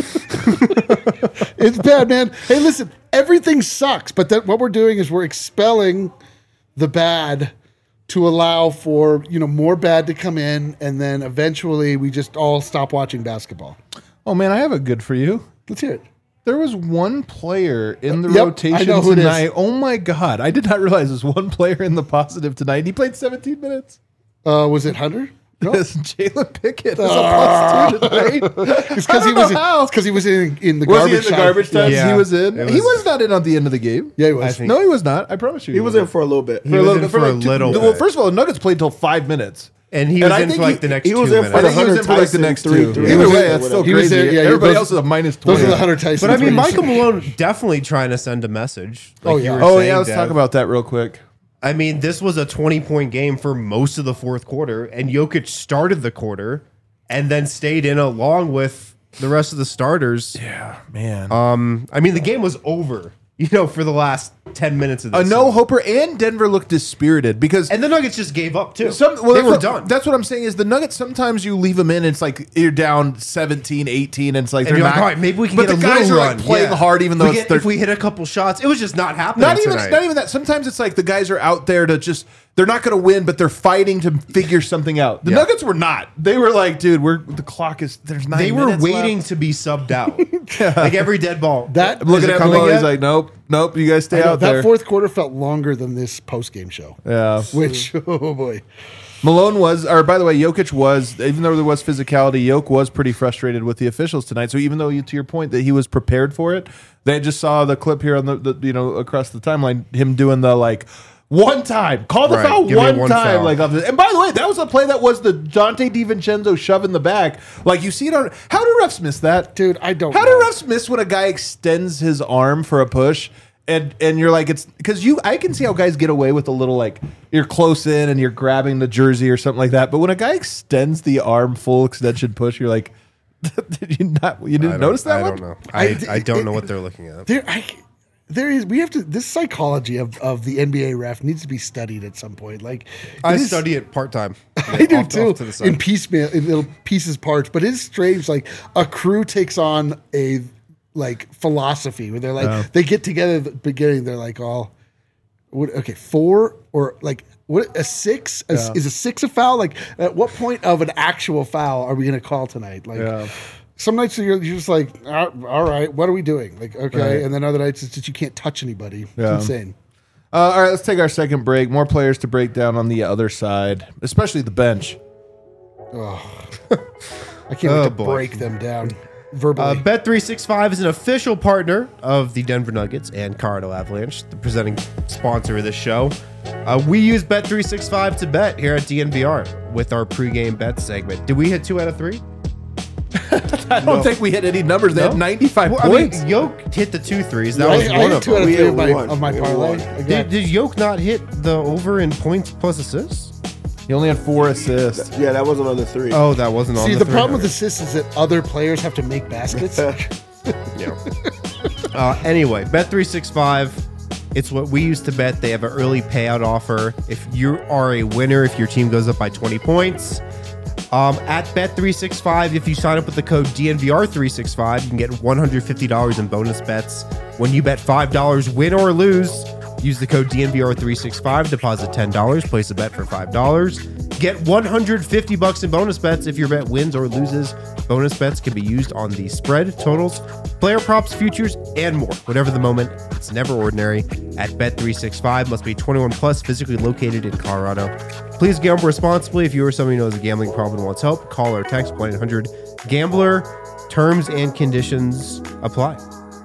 It's bad, man. Hey, listen. Everything sucks, but that what we're doing is we're expelling the bad to allow for you know more bad to come in, and then eventually we just all stop watching basketball. Oh man, I have a good for you. Let's hear it. There was one player in the Yep, I rotation know who it is. tonight. Oh my god, I did not realize there's one player in the positive tonight. He played seventeen minutes. Uh, was it Hunter? No, Yes, Jalen Pickett is a plus two tonight. it's because he I don't was know how. because he was in in the Was garbage he in the time. garbage time? Yeah. He was in. It he was- was not in on the end of the game. Yeah, he was. I think- No, he was not. I promise you. He was in for a little bit. He was in for a little Well, bit. first of all, the Nuggets played till five minutes. And he And was I in think for like he- the next he two was in minutes. for I think he was in for like the Tyson next three, two. three. Either He was way, in- that's still he was crazy. in- yeah, Everybody those- else is a minus Those twenty. are the Hunter Tyson. But I mean, threes. Michael Malone definitely trying to send a message. Like Oh, you yeah. were Oh saying, yeah, let's Dev. talk about that real quick. I mean, this was a twenty-point game for most of the fourth quarter, and Jokic started the quarter and then stayed in along with the rest of the starters. Yeah, man. Um, I mean, the game was over, you know, for the last ten minutes of A this. no hoper, and Denver looked dispirited because And the Nuggets just gave up, too. Some, well, they that's were what, done. That's what I'm saying is the Nuggets, sometimes you leave them in and it's like you're down seventeen, eighteen, and it's like and they're you're not. like, all right, maybe we can but get a the guys little are run. like playing Yeah. hard even though we it's get, thir- if we hit a couple shots, it was just not happening not even tonight. not even that. Sometimes it's like the guys are out there to just they're not going to win, but they're fighting to figure something out. The Yeah. Nuggets were not. They were like, dude, we're the clock is there's nine. They were minutes waiting left. to be subbed out. Like every dead ball. That- I'm looking Is it at coming Malone. He's yet? like, nope, nope. You guys stay I know, out that there. fourth quarter felt longer than this post game show. yeah. Which oh boy, Malone was, or by the way, Jokic was, even though there was physicality, Jokic was pretty frustrated with the officials tonight. So even though, you, to your point, that he was prepared for it, they just saw the clip here on the, the you know, across the timeline, him doing the like, one time, call the Right, foul give me one, one time. foul. Like, off the, and by the way, that was a play that was the Dante DiVincenzo shove in the back. Like, you see it on, how do refs miss that? dude, I don't. How know. do refs miss when a guy extends his arm for a push? And and you're like, it's because you I can see how guys get away with a little like you're close in and you're grabbing the jersey or something like that. But when a guy extends the arm full extension push, you're like, did you not you I didn't don't- notice that I one? don't know. I, I- I don't know what they're looking at. There, I, there is. We have to. This psychology of, of the N B A ref needs to be studied at some point. Like I it is- study it part time. I do too. In piecemeal, in little pieces, parts. But it's strange. Like a crew takes on a like philosophy where they're like they get together at the beginning. They're like all, what, okay, four or like what a six A- Yeah. is a six a foul? Like at what point of an actual foul are we going to call tonight? Like. Yeah. Some nights you're, you're just like, "Ah, all right, what are we doing? Like, okay, Right. and then other nights it's just you can't touch anybody. It's Yeah. insane. Uh, all right, let's take our second break. More players to break down on the other side, especially the bench. I can't Oh, wait to boy. break them down verbally. Uh, Bet three sixty-five is an official partner of the Denver Nuggets and Colorado Avalanche, the presenting sponsor of this show. Uh, we use Bet three sixty-five to bet here at D N V R with our pregame bet segment. Did we hit two out of three? I don't think we hit any numbers. They had No? ninety-five Well, I mean, points. Yoke hit the two threes. That I, was I one hit of two out them. of We three hit of my, one. of my We parlay. won. I got- Did, did Yoke not hit the over in points plus assists? He only had four assists. Yeah, that wasn't on the three. Oh, that wasn't on See, the, the three. problem with assists is that other players have to make baskets. Yeah. uh, anyway, Bet three sixty-five. It's what we use to bet. They have an early payout offer. If you are a winner, if your team goes up by twenty points, um, at Bet three sixty-five, if you sign up with the code D N V R three sixty-five, you can get one hundred fifty dollars in bonus bets. When you bet five dollars, win or lose, use the code D N V R three sixty-five, deposit ten dollars, place a bet for five dollars, Get one hundred fifty bucks in bonus bets if your bet wins or loses. Bonus bets can be used on the spread, totals, player props, futures, and more. Whatever the moment, it's never ordinary. At Bet three sixty-five, must be twenty-one plus, physically located in Colorado. Please gamble responsibly. If you or somebody knows a gambling problem and wants help, call or text one eight hundred gambler. Terms and conditions apply.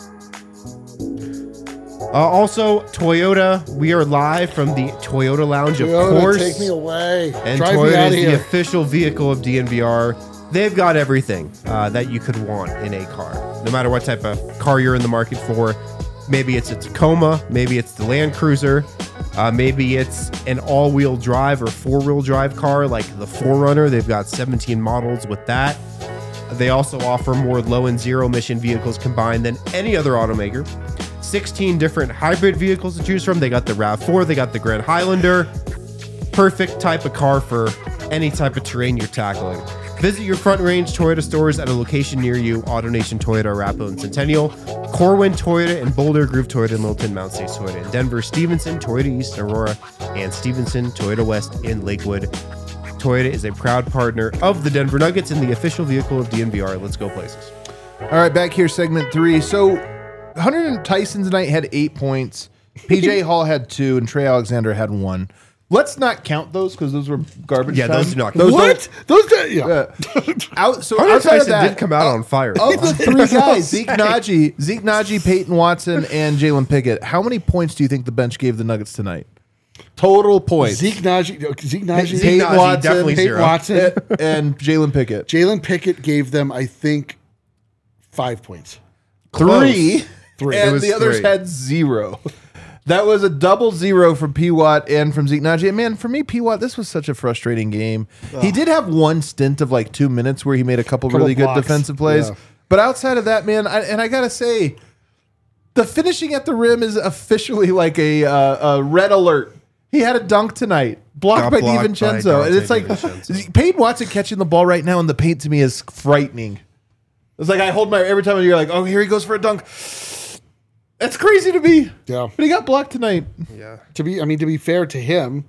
Uh, also, Toyota, we are live from the Toyota Lounge, Toyota, of course. take me away. And Drive me Toyota out is of here. the official vehicle of D N V R. They've got everything uh, that you could want in a car. No matter what type of car you're in the market for. Maybe it's a Tacoma, maybe it's the Land Cruiser, uh, maybe it's an all-wheel drive or four-wheel drive car like the four runner. They've got seventeen models with that. They also offer more low and zero emission vehicles combined than any other automaker. sixteen different hybrid vehicles to choose from. They got the RAV four, they got the Grand Highlander. Perfect type of car for any type of terrain you're tackling. Visit your Front Range Toyota stores at a location near you. AutoNation Toyota, Arapahoe and Centennial. Corwin Toyota in Boulder, Groove Toyota in Littleton, Mount States Toyota in Denver, Stevenson, Toyota East in Aurora, and Stevenson, Toyota West in Lakewood. Toyota is a proud partner of the Denver Nuggets and the official vehicle of D N V R. Let's go places. All right, back here, segment three. So Hunter and Tyson tonight had eight points. P J Hall had two, and Trey Alexander had one. Let's not count those because those were garbage. Yeah, time. those do not count. Those What? Those guys, yeah. don't- uh, out, so Hunter outside of Tyson that, did come out on fire. of the three guys, Zeke Naji, Zeke Naji, Peyton Watson, and Jalen Pickett, how many points do you think the bench gave the Nuggets tonight? Total points. Zeke Najee, Zeke Najee, Zeke Peyton Najee, Watson, definitely Peyton zero. Watson, and Jalen Pickett. Jalen Pickett gave them, I think, five points. Three. Three. And It was the others three. had zero. That was a double zero from P. Watt and from Zeke Naji. And man, for me, P. Watt, this was such a frustrating game. He did have one stint of like two minutes where he made a couple, Couple really good blocks. defensive plays. Yeah. But outside of that, man, I, and I got to say, the finishing at the rim is officially like a, uh, a red alert. He had a dunk tonight, blocked Got by blocked by DiVincenzo. And it's like, DiVincenzo. Peyton Watson catching the ball right now in the paint to me is frightening. It's like I hold my, every time you're like, oh, here he goes for a dunk. That's crazy to me. Yeah. But he got blocked tonight. Yeah. To be, I mean, to be fair to him,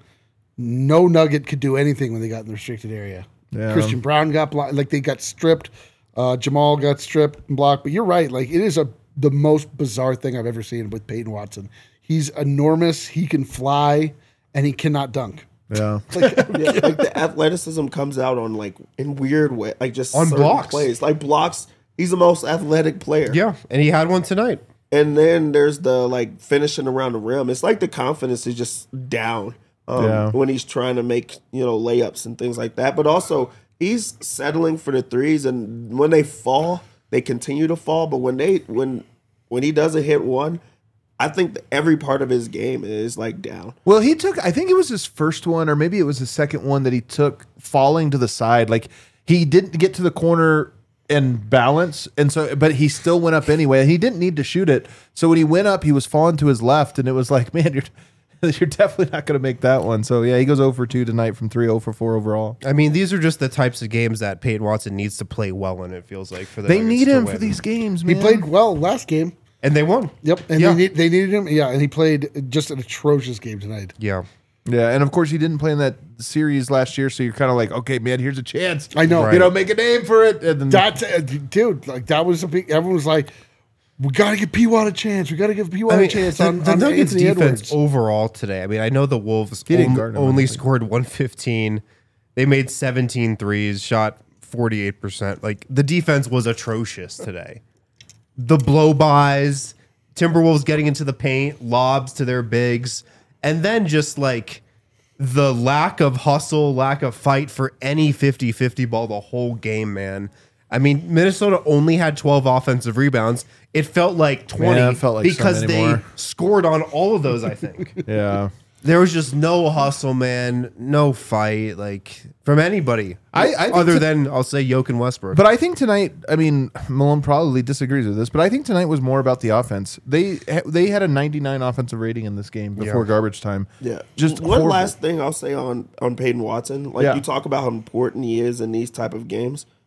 no Nugget could do anything when they got in the restricted area. Yeah. Christian Brown got blocked, like they got stripped. Uh, Jamal got stripped and blocked. But you're right, like it is a the most bizarre thing I've ever seen with Peyton Watson. He's enormous. He can fly, and he cannot dunk. Yeah. Like, yeah, like the athleticism comes out on like in weird way, like just On certain blocks. plays, like blocks. He's the most athletic player. Yeah, and he had one tonight. And then there's the like finishing around the rim. It's like the confidence is just down um, Yeah. when he's trying to make, you know, layups and things like that. But also he's settling for the threes, and when they fall, they continue to fall. But when they when when he doesn't hit one, I think that every part of his game is like down. Well, he took, I think it was his first one, or maybe it was his second one that he took falling to the side. Like he didn't get to the corner and balance, and so, but he still went up anyway. He didn't need to shoot it. So when he went up, he was falling to his left, and it was like, man, you're you're definitely not going to make that one. So yeah, he goes zero for two tonight from three, zero for four overall. I mean, these are just the types of games that Peyton Watson needs to play well in. It feels like for the They Nuggets need to him win. for these games, He man. played well last game. and they won. Yep, and Yeah. they need, they needed him. Yeah, and he played just an atrocious game tonight. Yeah, Yeah, and of course he didn't play in that series last year, so you're kind of like, okay, man, here's a chance. I know. you know, make a name for it. And then, That uh, dude, like that was a big. Everyone was like, "We got to give P. Watt a chance. We got to give P. Watt I mean, a chance the, on, the on Nuggets Anthony defense Edwards." overall today. I mean, I know the Wolves He didn't on- guard him, I only don't think. scored one fifteen. They made seventeen threes, shot forty-eight percent. Like the defense was atrocious today. The blow-bys, Timberwolves getting into the paint, lobs to their bigs, and then just like the lack of hustle, lack of fight for any fifty-fifty ball the whole game, man. I mean, Minnesota only had twelve offensive rebounds. It felt like twenty Yeah, it felt like because some they anymore. scored on all of those, I think. yeah. There was just no hustle, man. No fight, like from anybody. I- I think other to- than I'll say Yoke and Westbrook. But I think tonight, I mean, Malone probably disagrees with this, but I think tonight was more about the offense. They they had a ninety-nine offensive rating in this game before Yeah. garbage time. Yeah. Just one horrible. last thing I'll say on on Peyton Watson. Like Yeah. you talk about how important he is in these type of games.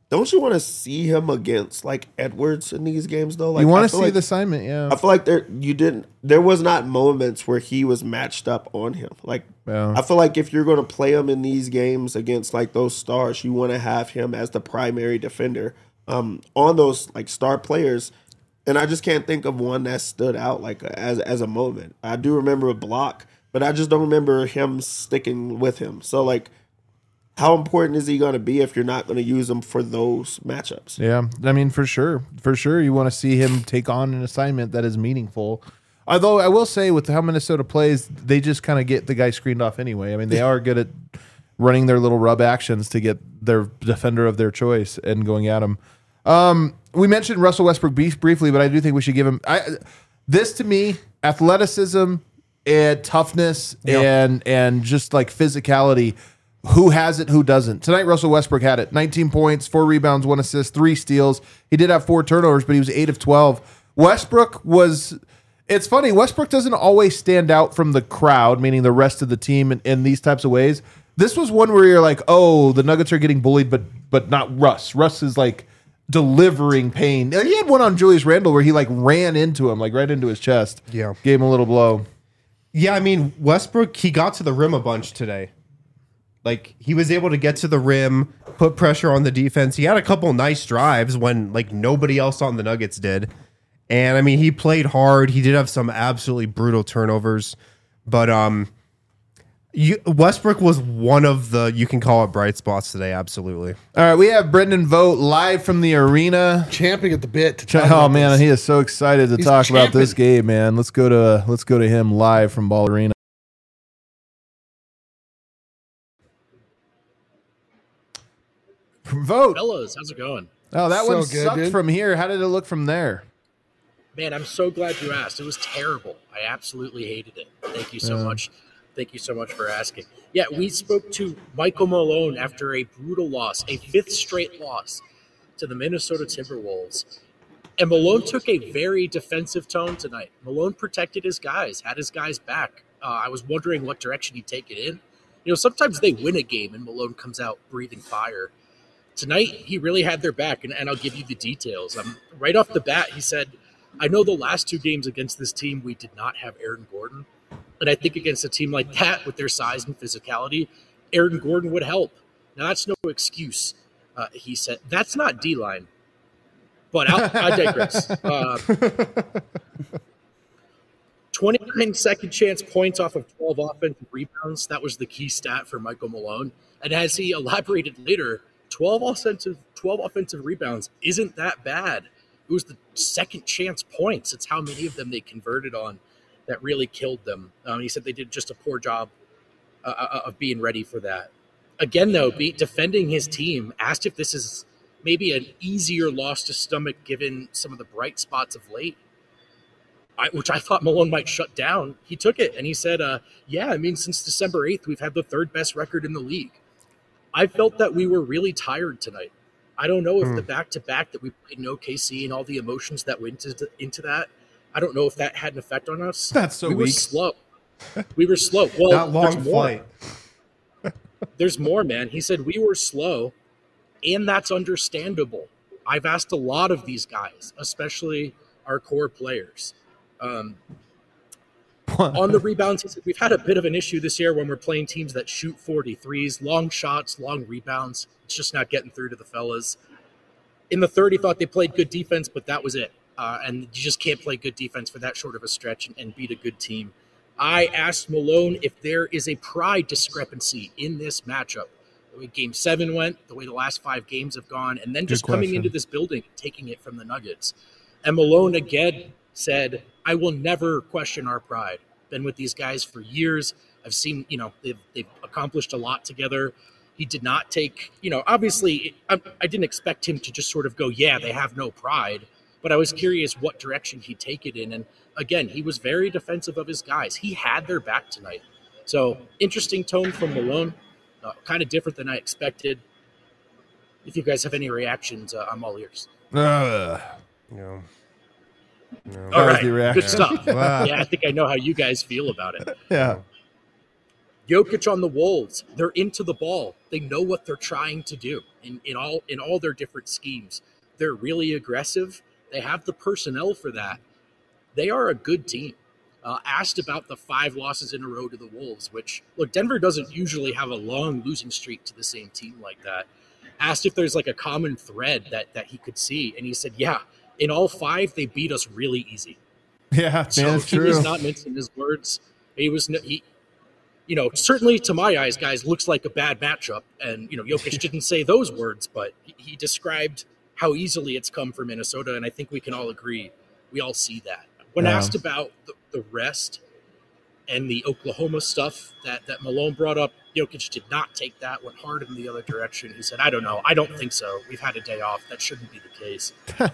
don't you want to see him against like Edwards in these games though? Like, you I want to feel see like, the assignment, yeah. I feel like there you didn't. There was not moments where he was matched up on him. Like Yeah. I feel like if you're going to play him in these games against like those stars, you want to have him as the primary defender um, on those like star players. And I just can't think of one that stood out like as as a moment. I do remember a block, but I just don't remember him sticking with him. So like, how important is he going to be if you're not going to use him for those matchups? Yeah, I mean, for sure, for sure, you want to see him take on an assignment that is meaningful. Although I will say, with how Minnesota plays, they just kind of get the guy screened off anyway. I mean, they are good at running their little rub actions to get their defender of their choice and going at him. Um, we mentioned Russell Westbrook briefly, but I do think we should give him I, this. To me, athleticism and toughness Yep. and and just like physicality. Who has it, who doesn't? Tonight, Russell Westbrook had it. nineteen points, four rebounds, one assist, three steals. He did have four turnovers, but he was eight of twelve. Westbrook was, it's funny, Westbrook doesn't always stand out from the crowd, meaning the rest of the team in, in these types of ways. This was one where you're like, oh, the Nuggets are getting bullied, but but not Russ. Russ is like delivering pain. He had one on Julius Randle where he like ran into him, like right into his chest. Yeah. Gave him a little blow. Yeah, I mean, Westbrook, he got to the rim a bunch today. Like, he was able to get to the rim, put pressure on the defense. He had a couple nice drives when, like, nobody else on the Nuggets did. And, I mean, he played hard. He did have some absolutely brutal turnovers. But um, you, Westbrook was one of the, you can call it bright spots today, absolutely. All right, we have Brendan Vogt live from the arena. Champing at the bit. To talk Oh about man, this. he is so excited to He's talk about this champing. game, man. Let's go to let's go to him live from Ball Arena. Vote. Fellas, how's it going? Oh, that So one good, sucked dude. from here. How did it look from there? Man, I'm so glad you asked. It was terrible. I absolutely hated it. Thank you so Yeah. much. Thank you so much for asking. Yeah, we spoke to Michael Malone after a brutal loss, a fifth straight loss to the Minnesota Timberwolves. And Malone took a very defensive tone tonight. Malone protected his guys, had his guys back. Uh, I was wondering what direction he'd take it in. You know, sometimes they win a game and Malone comes out breathing fire. Tonight, he really had their back, and, and I'll give you the details. Um, right off the bat, he said, I know the last two games against this team, we did not have Aaron Gordon. And I think against a team like that, with their size and physicality, Aaron Gordon would help. Now, that's no excuse. Uh, he said, that's not D-line. But I'll, I digress. Uh, twenty-nine second chance points off of twelve offensive rebounds. That was the key stat for Michael Malone. And as he elaborated later, twelve offensive, twelve offensive rebounds isn't that bad. It was the second chance points. It's how many of them they converted on that really killed them. Um, he said they did just a poor job uh, of being ready for that. Again, though, be, defending his team, asked if this is maybe an easier loss to stomach given some of the bright spots of late, I, which I thought Malone might shut down. He took it, and he said, uh, yeah, I mean, since December eighth, we've had the third best record in the league. I felt that we were really tired tonight. I don't know if Hmm. the back-to-back that we played in O K C and all the emotions that went into, into that, I don't know if that had an effect on us. That's so we were weak. slow. We were slow. Well, That long there's more. flight. There's more, man. He said we were slow, and that's understandable. I've asked a lot of these guys, especially our core players. Um, on the rebounds, he said we've had a bit of an issue this year when we're playing teams that shoot forty-threes, long shots, long rebounds. It's just not getting through to the fellas. In the third, he thought they played good defense, but that was it. Uh, and you just can't play good defense for that short of a stretch and, and beat a good team. I asked Malone if there is a pride discrepancy in this matchup. The way Game seven went, the way the last five games have gone, and then just Good coming question. into this building and taking it from the Nuggets. And Malone again said, I will never question our pride. Been with these guys for years. I've seen, you know, they've, they've accomplished a lot together. He did not take, you know, obviously, I, I didn't expect him to just sort of go, yeah, they have no pride. But I was curious what direction he'd take it in. And again, he was very defensive of his guys. He had their back tonight. So interesting tone from Malone. Uh, kind of different than I expected. If you guys have any reactions, uh, I'm all ears. Ugh. No. No. All That was right, the reaction. good stuff. Wow. Yeah, I think I know how you guys feel about it. Yeah. Jokic on the Wolves, they're into the ball. They know what they're trying to do. in, in all in all their different schemes. They're really aggressive. They have the personnel for that. They are a good team. Uh, asked about the five losses in a row to the Wolves, which, look, Denver doesn't usually have a long losing streak to the same team like that. Asked if there's like a common thread that that he could see, and he said, yeah, in all five, they beat us really easy. Yeah, man, So that's he true. was not mincing his words. He was, n- he, you know, certainly to my eyes, guys, looks like a bad matchup. And, you know, Jokic didn't say those words, but he, he described how easily it's come for Minnesota, and I think we can all agree. We all see that. When Yeah. asked about the, the rest and the Oklahoma stuff that, that Malone brought up, Jokic did not take that, went hard in the other direction. He said, I don't know. I don't think so. We've had a day off. That shouldn't be the case.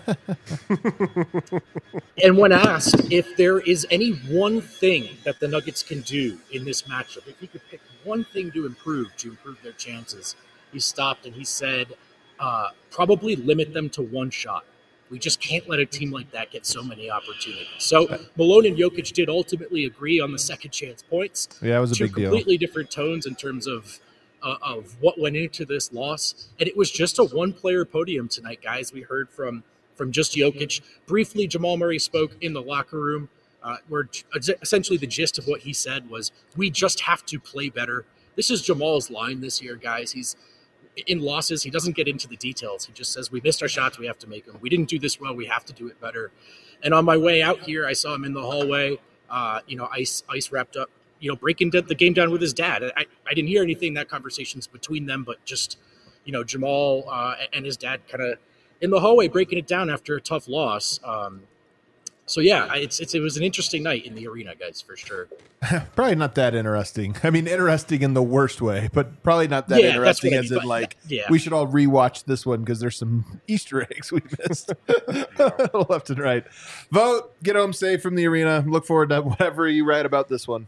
And when asked if there is any one thing that the Nuggets can do in this matchup, if he could pick one thing to improve, to improve their chances, he stopped and he said, uh, probably limit them to one shot. We just can't let a team like that get so many opportunities. So Malone and Jokic did ultimately agree on the second chance points. Yeah, it was a Two big deal. completely different tones in terms of uh, of what went into this loss, and it was just a one-player podium tonight, guys. We heard from from just Jokic. Briefly, Jamal Murray spoke in the locker room, uh, where essentially the gist of what he said was, "We just have to play better." This is Jamal's line this year, guys. He's in losses, he doesn't get into the details. He just says, we missed our shots, we have to make them. We didn't do this well, we have to do it better. And on my way out here, I saw him in the hallway. Uh, you know, Ice Ice wrapped up, you know, breaking the game down with his dad. I, I didn't hear anything, that conversation's between them, but just, you know, Jamal uh, and his dad kind of in the hallway breaking it down after a tough loss. Um, so, yeah, it's, it's it was an interesting night in the arena, guys, for sure. Probably not that interesting. I mean, interesting in the worst way, but probably not that Yeah, that's interesting what I as mean, in but- like yeah. we should all rewatch this one because there's some Easter eggs we missed left and right. Vote, get home safe from the arena. Look forward to whatever you write about this one.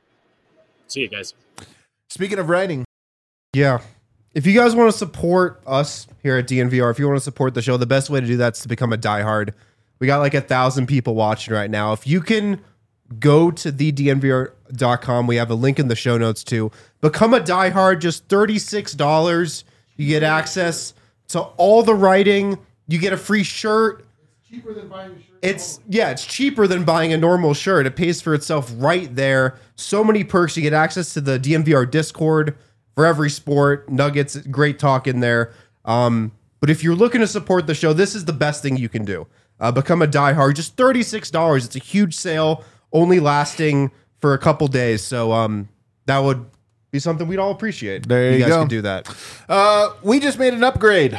See you guys. Speaking of writing, Yeah. If you guys want to support us here at D N V R, if you want to support the show, the best way to do that is to become a diehard. We got like a thousand people watching right now. If you can go to the D N V R dot com, we have a link in the show notes too. Become a diehard, just thirty-six dollars. You get access to all the writing. You get a free shirt. Cheaper than buying a shirt. It's yeah, it's cheaper than buying a normal shirt. It pays for itself right there. So many perks. You get access to the D N V R Discord for every sport. Nuggets, great talk in there. Um, but if you're looking to support the show, this is the best thing you can do. Uh, become a diehard. Just thirty-six dollars. It's a huge sale, only lasting for a couple days. So um, that would be something we'd all appreciate. There if you you guys go. could do that. uh, we just made an upgrade.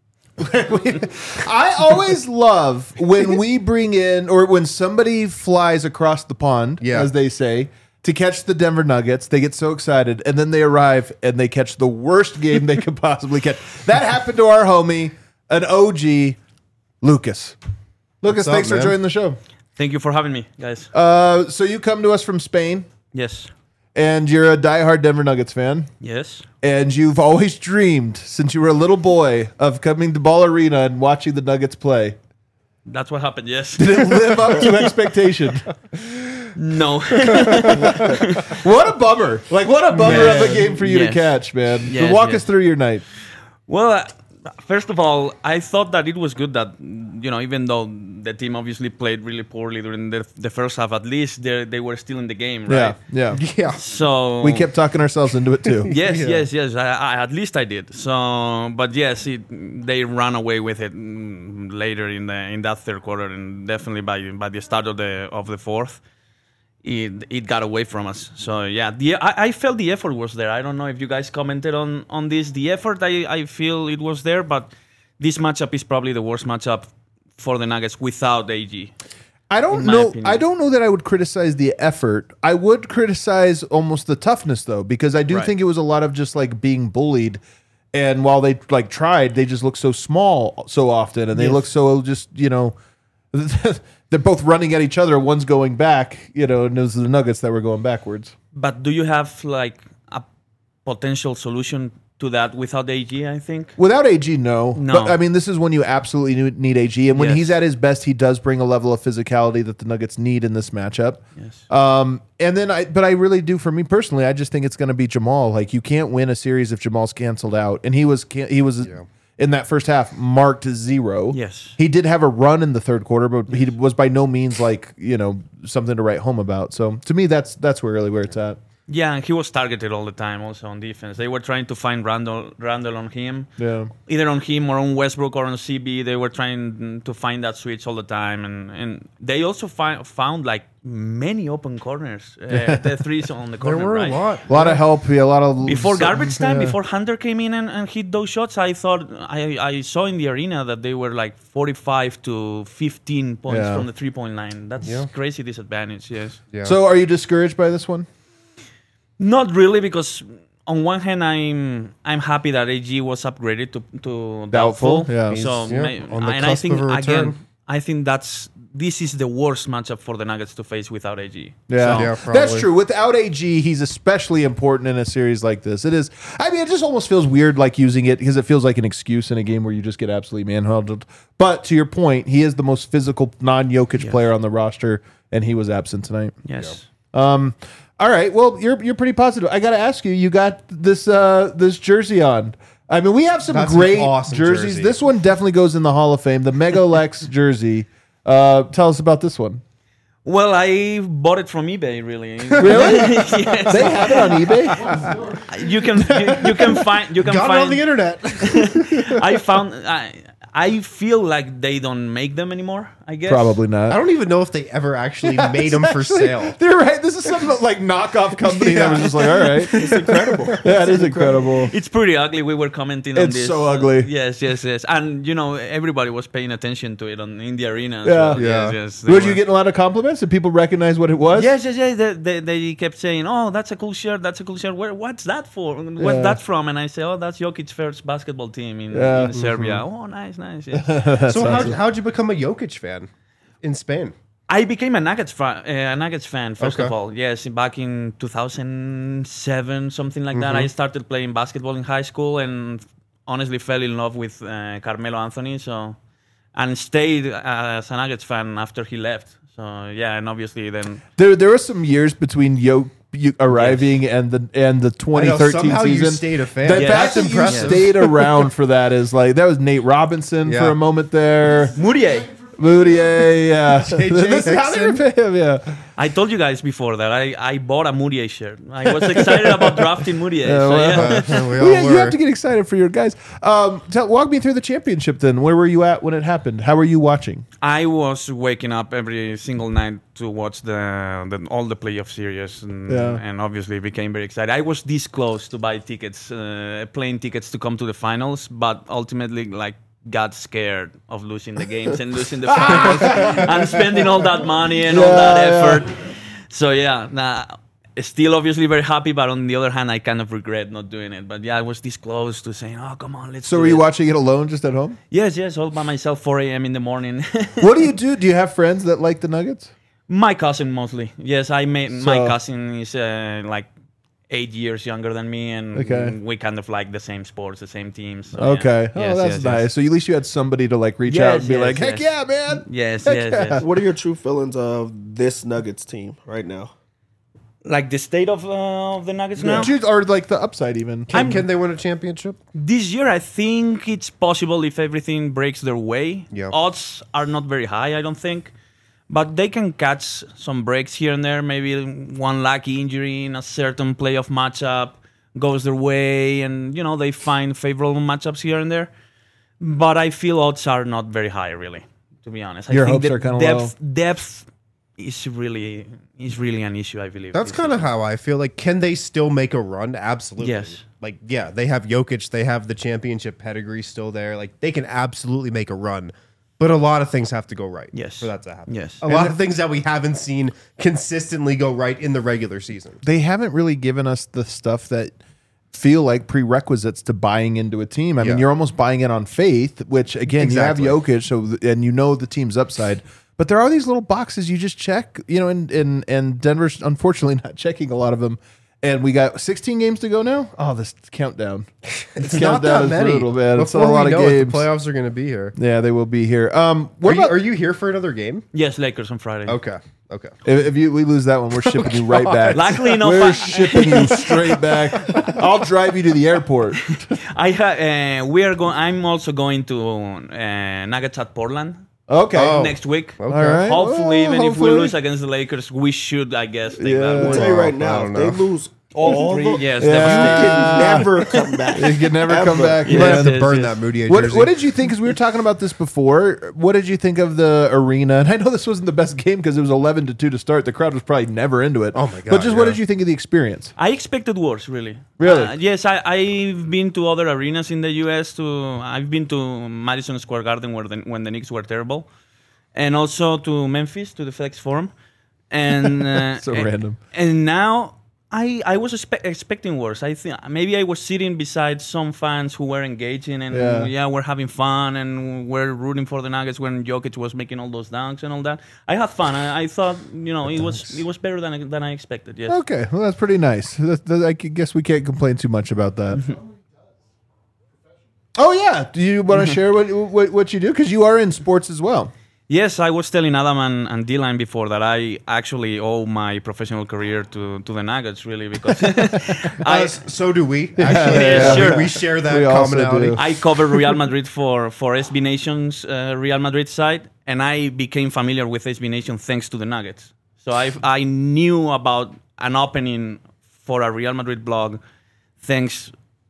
I always love when we bring in or when somebody flies across the pond, Yeah. as they say, to catch the Denver Nuggets. They get so excited, and then they arrive and they catch the worst game they could possibly catch. That happened to our homie, an O G, Lucas. Lucas, What's up, thanks for man? joining the show. Thank you for having me, guys. Uh, so you come to us from Spain, yes. and you're a diehard Denver Nuggets fan. Yes. And you've always dreamed, since you were a little boy, of coming to Ball Arena and watching the Nuggets play. That's what happened, yes. Did it live up to expectation? No. What a bummer. Like, what a bummer of a game for you to Yes. catch, man. So Yes, walk yes. us through your night. Well, uh, first of all, I thought that it was good that, you know, even though the team obviously played really poorly during the, the first half, at least they they were still in the game, right? Yeah, yeah. Yeah. So We kept talking ourselves into it, too. Yes, yes, yes. I, I, at least I did. So, but yes, it, they ran away with it mm, later in the in that third quarter, and definitely by by the start of the of the fourth, it it got away from us. So yeah, the I, I felt the effort was there. I don't know if you guys commented on on this. The effort, I I feel it was there, but this matchup is probably the worst matchup for the Nuggets without A G. I don't in my know. opinion. I don't know that I would criticize the effort. I would criticize almost the toughness, though, because I do Right. think it was a lot of just like being bullied. And while they like tried, they just look so small so often, and they Yes. look so just you know, they're both running at each other. One's going back, you know, and it was the Nuggets that were going backwards. But do you have like a potential solution to that without A G, I think. Without A G, no. No. But I mean, this is when you absolutely need- need A G, and when Yes. he's at his best, he does bring a level of physicality that the Nuggets need in this matchup. Yes. Um, and then I, but I really do, for me personally, I just think it's going to be Jamal. Like, you can't win a series if Jamal's canceled out, and he was can- he was in that first half marked zero. Yes. He did have a run in the third quarter, but he was by no means like, you know, something to write home about. So to me, that's that's where really where it's at. Yeah, and he was targeted all the time also on defense. They were trying to find Randall, Randall on him. Yeah. Either on him or on Westbrook or on C B. They were trying to find that switch all the time. And, and they also fi- found like many open corners. Uh, the threes on the There corner, were right? a lot. A lot of help, yeah, a lot of Before garbage time, yeah. before Hunter came in and, and hit those shots, I thought I, I saw in the arena that they were like forty-five to fifteen points Yeah. from the three point line. That's Yeah. crazy disadvantage. Yes. Yeah. So, are you discouraged by this one? Not really, because on one hand, I'm I'm happy that A G was upgraded to to Doubtful, doubtful. yeah. So He's, yeah, may- on the and I cusp think of a return. again, I think that's this is the worst matchup for the Nuggets to face without A G. Yeah, So- Yeah, that's probably. true. Without A G, he's especially important in a series like this. It is. I mean, it just almost feels weird, like using it because it feels like an excuse in a game where you just get absolutely manhandled. But to your point, he is the most physical non-Jokic player on the roster, and he was absent tonight. Yes. Um. All right. Well, you're you're pretty positive. I got to ask you. You got this uh this jersey on. I mean, we have some That's an great awesome jerseys. jersey. This one definitely goes in the Hall of Fame. The Mega Lex jersey. Uh, tell us about this one. Well, I bought it from eBay. Really. Really? Yes. They have it on eBay. You can you, you can find you can Got it find on the internet. I found I I feel like they don't make them anymore. I guess Probably not. I don't even know if they ever actually made them for sale. They're right. This is some like knockoff company that was just like, all right, it's incredible. Yeah, it is incredible. It's pretty ugly. We were commenting on It's this. so ugly. Yes, yes, yes. And you know, everybody was paying attention to it on in the arena. As Yeah. well. Yeah. Yes, yes. They Were were- you getting a lot of compliments? Did people recognize what it was? Yes, yes, yes. They, they, they kept saying, "Oh, that's a cool shirt. That's a cool shirt. Where, what's that for? Where's Yeah. that from?" And I say, "Oh, that's Jokic's first basketball team in, Yeah. in Serbia." Oh, nice, nice. Yes. So how how'd you become a Jokic fan in Spain? I became a Nuggets fan. Uh, a Nuggets fan first of Okay. all. Yes, back in two thousand seven, something like that. I started playing basketball in high school and honestly fell in love with uh, Carmelo Anthony. So, and stayed as a Nuggets fan after he left. So yeah, and obviously then There, there were some years between Yo you arriving and the and the twenty thirteen somehow you season. stayed a fan. The Yeah, fact that's that impressive. you stayed around for that is like that was Nate Robinson Yeah. for a moment there. Moutier. Moutier, yeah. J J This is how they Hickson. repay him, yeah. I told you guys before that I, I bought a Moutier shirt. I was excited about drafting Moutier. Yeah, so well, yeah. we Well, all yeah, you were. have to get excited for your guys. Um, tell, walk me through the championship then. Where were you at when it happened? How were you watching? I was waking up every single night to watch the, the all the playoff series, and, Yeah. and obviously became very excited. I was this close to buy tickets, uh, plane tickets to come to the finals, but ultimately, like, got scared of losing the games and losing the finals and spending all that money and all Yeah, that yeah. effort. So yeah, nah, still obviously very happy, but on the other hand, I kind of regret not doing it. But yeah, I was this close to saying, "Oh, come on, let's." So do were you it." watching it alone just at home? Yes, yes, all by myself, four a.m. in the morning. What do you do? Do you have friends that like the Nuggets? My cousin mostly. Yes, I made my So- cousin is uh, like eight years younger than me, and Okay. we kind of like the same sports, the same teams. So, Okay. yeah. Oh, Yes, that's yes, nice. yes. So at least you had somebody to like reach Yes, out and be yes, like, "Heck yes. yeah, man!" Yes, Heck yes, yeah. yes. What are your true feelings of this Nuggets team right now? Like the state of, uh, of the Nuggets now. Choose- Or like the upside even. Can, can they win a championship? This year, I think it's possible if everything breaks their way. Yeah. Odds are not very high, I don't think. But they can catch some breaks here and there. Maybe one lucky injury in a certain playoff matchup goes their way, and you know they find favorable matchups here and there. But I feel odds are not very high, really. To be honest, I Your think hopes the are kinda depth. Depth is really is really an issue, I believe. That's this kind of season. how I feel. Like, can they still make a run? Absolutely. Yes. Like, yeah, they have Jokic. They have the championship pedigree still there. Like, they can absolutely make a run. But a lot of things have to go right Yes. for that to happen. Yes. A lot of things that we haven't seen consistently go right in the regular season. They haven't really given us the stuff that feel like prerequisites to buying into a team. I mean, Yeah. you're almost buying it on faith, which again, Exactly. you have Jokic, so th- and you know the team's upside. But there are these little boxes you just check, you know, and and and Denver's unfortunately not checking a lot of them. And we got sixteen games to go now. Oh, this countdown. It's not that many. Brutal, man. It's a Before lot we of know it, games. the playoffs are going to be here. Yeah, they will be here. Um, what Are you, about are you here for another game? Yes, Lakers on Friday. Okay. Okay. if, if you we lose that one? We're shipping you right back. Luckily enough, we're I- shipping you straight back. I'll drive you to the airport. I ha- uh, we are going. I'm also going to uh, Nuggets at Portland Okay. Oh. next week. Okay. All right. Hopefully, Well, even hopefully. if we lose against the Lakers, we should, I guess, take Yeah. that I'll one. tell you right I now, don't if they know. lose all Three, the, yes, Yeah. you devastating. can never come back. You can never Ever. come back. You might Yes, have to yes, burn yes. that Moody What, jersey. what did you think? Because we were talking about this before. What did you think of the arena? And I know this wasn't the best game because it was eleven to two to start. The crowd was probably never into it. Oh my God, But just what yeah. did you think of the experience? I expected worse, really. Really? Uh, yes, I, I've been to other arenas in the U S. To I've been to Madison Square Garden where the, when the Knicks were terrible, and also to Memphis to the FedEx Forum, and uh, So and, random. And now I I was expe- expecting worse. I think maybe I was sitting beside some fans who were engaging and Yeah. yeah, we're having fun and we're rooting for the Nuggets when Jokic was making all those dunks and all that. I had fun. I, I thought you know it was it was better than I, than I expected. Yes. Okay, well that's pretty nice. That, that, I guess we can't complain too much about that. Oh yeah, do you want to share what, what what you do? Because you are in sports as well. Yes, I was telling Adam and, and D-Line before that I actually owe my professional career to, to the Nuggets, really, because I, Uh, so do we. Actually, Yeah, We- sure. we, share that We also commonality. do. I covered Real Madrid for, for S B Nation's uh, Real Madrid side, and I became familiar with S B Nation thanks to the Nuggets. So I I knew about an opening for a Real Madrid blog thanks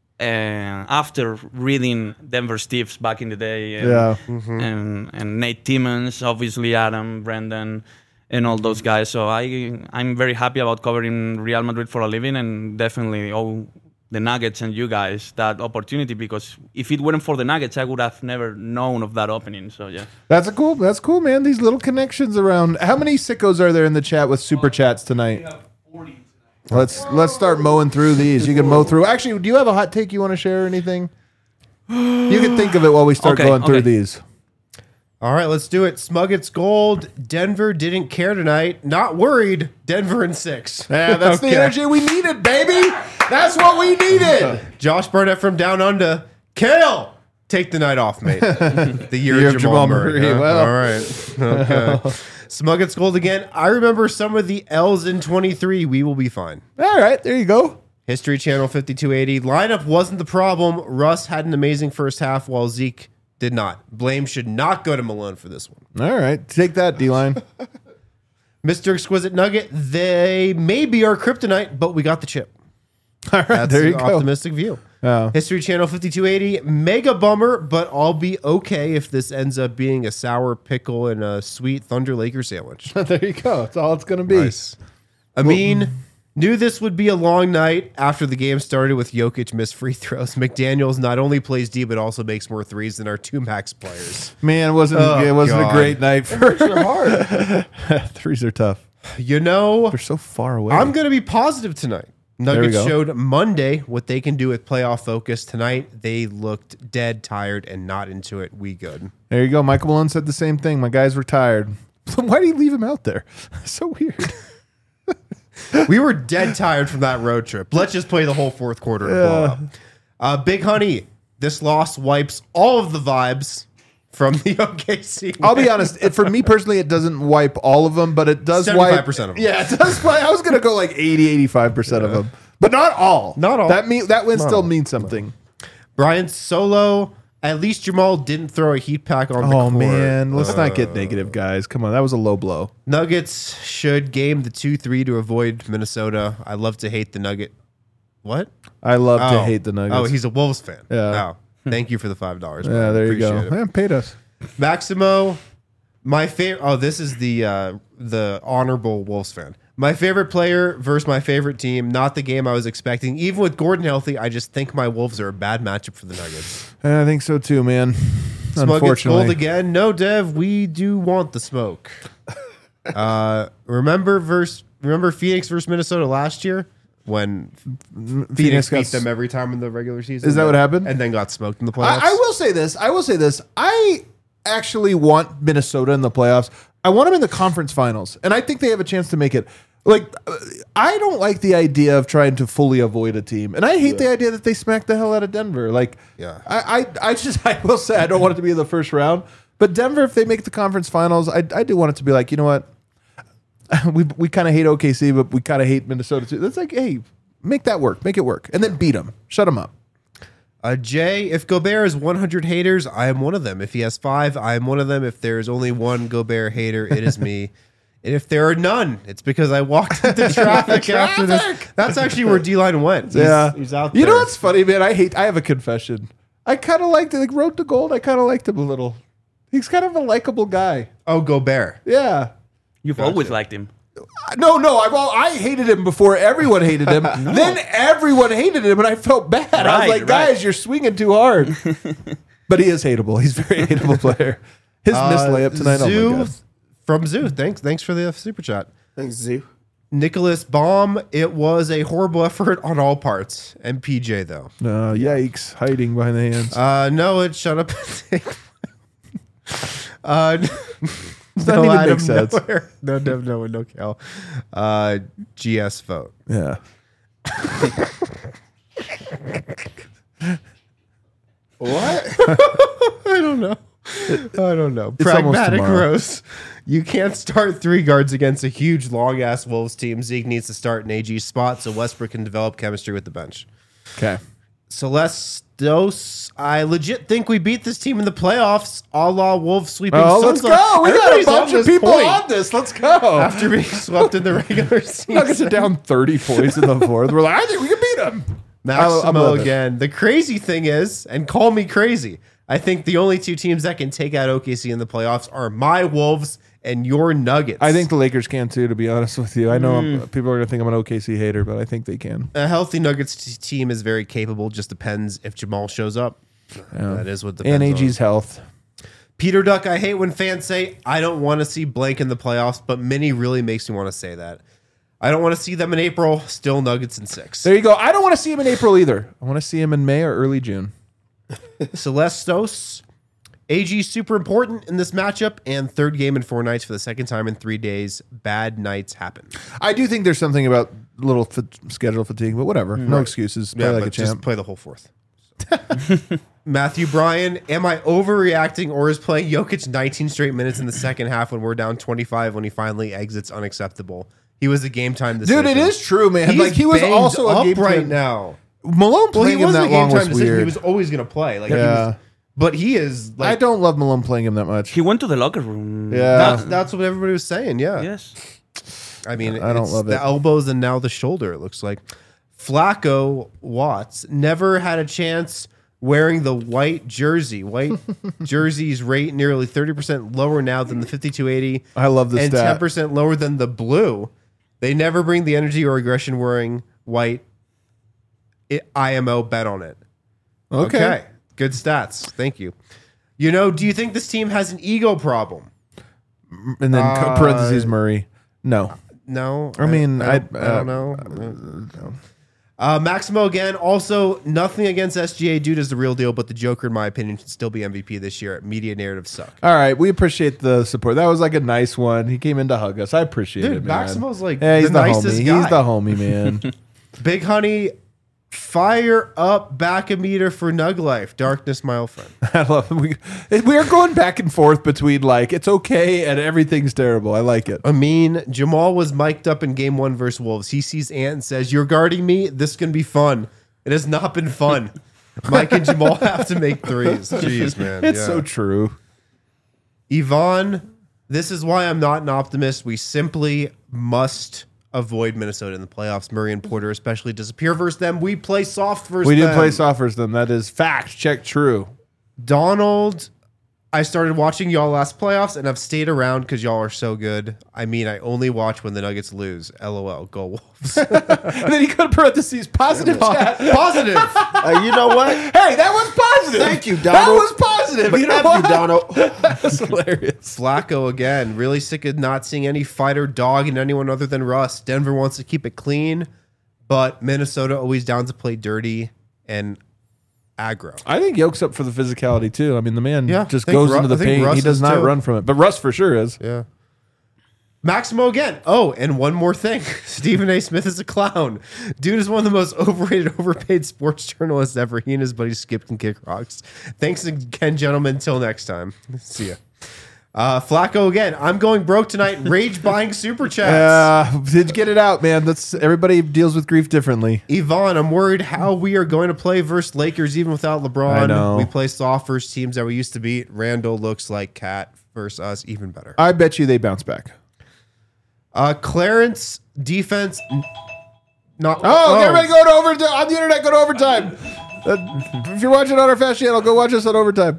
uh, after reading Denver Steves back in the day. And, Yeah. and and Nate Timmons, obviously Adam, Brendan, and all those guys. So I I'm very happy about covering Real Madrid for a living, and definitely owe the Nuggets and you guys that opportunity, because if it weren't for the Nuggets, I would have never known of that opening. So yeah. That's a cool. That's cool, man. These little connections around. How many sickos are there in the chat with super chats tonight? Let's let's start mowing through these. You can mow through. Actually, do you have a hot take you want to share or anything? You can think of it while we start Okay, going through okay. these. All right, let's do it. Smuggets Gold. Denver didn't care tonight. Not worried. Denver in six. Yeah, that's the Okay. energy we needed, baby. That's what we needed. Josh Burnett from Down Under. Kale, take the night off, mate. The year, Year of Jamal, Murray. huh? well. All right. Okay. Smuggets Gold again. I remember some of the L's in twenty-three. We will be fine. All right, there you go. History Channel fifty-two eighty. Lineup wasn't the problem. Russ had an amazing first half while Zeke did not. Blame should not go to Malone for this one. All right, take that, D-line. Mister Exquisite Nugget. They may be our kryptonite, but we got the chip. All right, That's there you an go. optimistic view. Oh. History Channel fifty-two eighty. Mega bummer, but I'll be okay if this ends up being a sour pickle and a sweet Thunder Laker sandwich. There you go. That's all it's gonna be. Nice. I mean, knew this would be a long night after the game started with Jokic missed free throws. McDaniels not only plays D, but also makes more threes than our two max players. Man, it wasn't Oh, it wasn't God. a great night for hard. Threes are tough. You know, They're so far away. I'm going to be positive tonight. we Nuggets go. showed Monday what they can do with playoff focus. Tonight, they looked dead, tired, and not into it. We good. There you go. Michael Malone said the same thing. My guys were tired. Why do you leave him out there? So weird. We were dead tired from that road trip. Let's just play the whole fourth quarter and blow up. Uh, Big Honey, this loss wipes all of the vibes from the O K C. I'll be honest. It, for me personally, it doesn't wipe all of them, but it does wipe seventy-five percent of them. Yeah, it does. Wipe, I was going to go like eighty, eighty-five percent of them, but not all. Not all. That mean that win Not still all. means something. Brian Solo, at least Jamal didn't throw a heat pack on the Oh court. man, let's not Uh, get negative, guys. Come on, that was a low blow. Nuggets should game the two three to avoid Minnesota. I love to hate the Nugget. What? I love to Oh. hate the Nuggets. Oh, he's a Wolves fan. Yeah. Oh, thank you for the five dollars. yeah. There you go. Appreciate it. Man, paid us. Maximo, my favorite. Oh, this is the uh, the honorable Wolves fan. My favorite player versus my favorite team. Not the game I was expecting. Even with Gordon healthy, I just think my Wolves are a bad matchup for the Nuggets. I think so too, man. Smug gets gold Unfortunately, again. No, Dev, we do want the smoke. uh, remember versus remember Phoenix versus Minnesota last year when Phoenix, Phoenix got beat s- them every time in the regular season. Is that what happened? And then got smoked in the playoffs. I, I will say this. I will say this. I actually want Minnesota in the playoffs. I want them in the conference finals, and I think they have a chance to make it. Like, uh, I don't like the idea of trying to fully avoid a team, and I hate the idea that they smacked the hell out of Denver. Like, Yeah. I, I, I just, I will say, I don't want it to be in the first round, but Denver, if they make the conference finals, I, I do want it to be like, you know what, we we kind of hate O K C, but we kind of hate Minnesota too. That's like, hey, make that work, make it work, and then beat them, shut them up. Uh, Jay, if Gobert has one hundred haters, I am one of them. If he has five, I am one of them. If there is only one Gobert hater, it is me. And if there are none, it's because I walked into traffic after this. That's actually where D-Line went. He's, yeah, he's out You there. know what's funny, man? I hate. I have a confession. I kind of liked it. Like Road to Gold. I kind of liked him a little. He's kind of a likable guy. Oh, Gobert. Yeah. You've always liked him. No, no. I've all, I hated him before everyone hated him. Then everyone hated him, and I felt bad. I was Right, like, right. guys, you're swinging too hard. But he is hateable. He's a very hateable player. His missed layup tonight. Zoo, Oh my God. from Zoo. Thanks, thanks for the super chat. Thanks, Zoo. Nicholas Baum. It was a horrible effort on all parts. And P J though. No, yikes! Hiding behind the hands. Uh, no, it shut up. uh, Doesn't even make sense. Nowhere. No, no, no, no, Cal. Uh, G S vote. Yeah. What? I don't know. I don't know. It's almost Pragmatic tomorrow. Rose. You can't start three guards against a huge, long ass Wolves team. Zeke needs to start in A G's spot so Westbrook can develop chemistry with the bench. Okay. Celestos, I legit think we beat this team in the playoffs, a la Wolves sweeping Oh, Suns. let's go! We got a Everybody's bunch on of this people point on this. Let's go. after being swept in the regular season. Nuggets are down thirty points in the fourth. We're like, I think we can beat them. Maximo again. The crazy thing is, and call me crazy, I think the only two teams that can take out O K C in the playoffs are my Wolves and your Nuggets. I think the Lakers can too, to be honest with you. I know I'm, people are going to think I'm an O K C hater, but I think they can. a healthy Nuggets t- team is very capable. Just depends if Jamal shows up. That is what depends And A G's on. health. Peter Duck, I hate when fans say, I don't want to see blank in the playoffs, but Mini really makes me want to say that. I don't want to see them in April. Still Nuggets in six. There you go. I don't want to see him in April either. I want to see him in May or early June. Celestos, A G super important in this matchup, and third game in four nights for the second time in three days. Bad nights happen. I do think there's something about little fa- schedule fatigue, but whatever. No excuses. Play Yeah, like but a just champ. play the whole fourth. Matthew Bryan, am I overreacting, or is playing Jokic nineteen straight minutes in the second half when we're down twenty-five when he finally exits unacceptable? He was a game time decision. Dude, it is true, man. He's like he was banged also a up game right time- now. Malone Well, he playing him wasn't that a game long time was decision. weird. He was always going to play. Like, he Yeah. was, but he is. Like, I don't love Malone playing him that much. He went to the locker room. Yeah. That's, that's what everybody was saying. Yeah. Yes. I mean, I don't it's love the it. elbows and now the shoulder. It looks like Flacco Watts never had a chance wearing the white jersey. White jerseys rate nearly thirty percent lower now than the fifty-two eighty. I love this and stat. ten percent lower than the blue. They never bring the energy or aggression wearing white. It, I M O bet on it. Okay. Good stats. Thank you. You know, do you think this team has an ego problem? And then Uh, parentheses Murray. No. No. I mean, I, I- don't, I don't know. Uh, Maximo again. Also, nothing against S G A. Dude is the real deal, but the Joker, in my opinion, should still be M V P this year. Media narratives suck. All right, we appreciate the support. That was like a nice one. He came in to hug us. I appreciate Dude, it, man. Maximo's like yeah, he's the the, nicest homie. guy. He's the homie, man. Big Honey, fire up back a meter for Nug Life. Darkness, my old friend. I love him. We, we are going back and forth between like it's okay and everything's terrible. I like it. I mean, Jamal was mic'd up in game one versus Wolves. He sees Ant and says, "You're guarding me. This is gonna be fun." It has not been fun. Mike and Jamal have to make threes. Jeez, man. It's Yeah. so true. Yvonne, this is why I'm not an optimist. We simply must avoid Minnesota in the playoffs. Murray and Porter especially disappear versus them. We play soft versus We them. did play softers them. That is fact. Check true. Donald, I started watching y'all last playoffs and I've stayed around because y'all are so good. I mean, I only watch when the Nuggets lose. LOL. Go Wolves. And then he could parentheses positive chat. Positive. Uh, you know what? Hey, that was positive. Thank you, That Donald. was positive. But you know F what? you, Donald. That's hilarious. Flacco again. Really sick of not seeing any fighter dog in anyone other than Russ. Denver wants to keep it clean, but Minnesota always down to play dirty and aggro. I think Yoke's up for the physicality too. I mean, the man Yeah, just I think goes Ru- into the I think paint. Russ he does is not too. run from it, but Russ for sure is. Yeah. Maximo again. Oh, and one more thing. Stephen A. Smith is a clown. Dude is one of the most overrated, overpaid sports journalists ever. He and his buddies skipped and kick rocks. Thanks again, gentlemen. Until next time. See ya. Uh, Flacco again. I'm going broke tonight. Rage buying super chats. Uh, did you get it out, man? That's everybody deals with grief differently. Yvonne, I'm worried how we are going to play versus Lakers even without LeBron. I know. We play soft versus teams that we used to beat. Randall looks like Cat versus us, even better. I bet you they bounce back. Uh, Clarence defense. n- Not. Oh, everybody go to overtime on the internet. Go to overtime. Uh, if you're watching on our Fast channel, go watch us on overtime.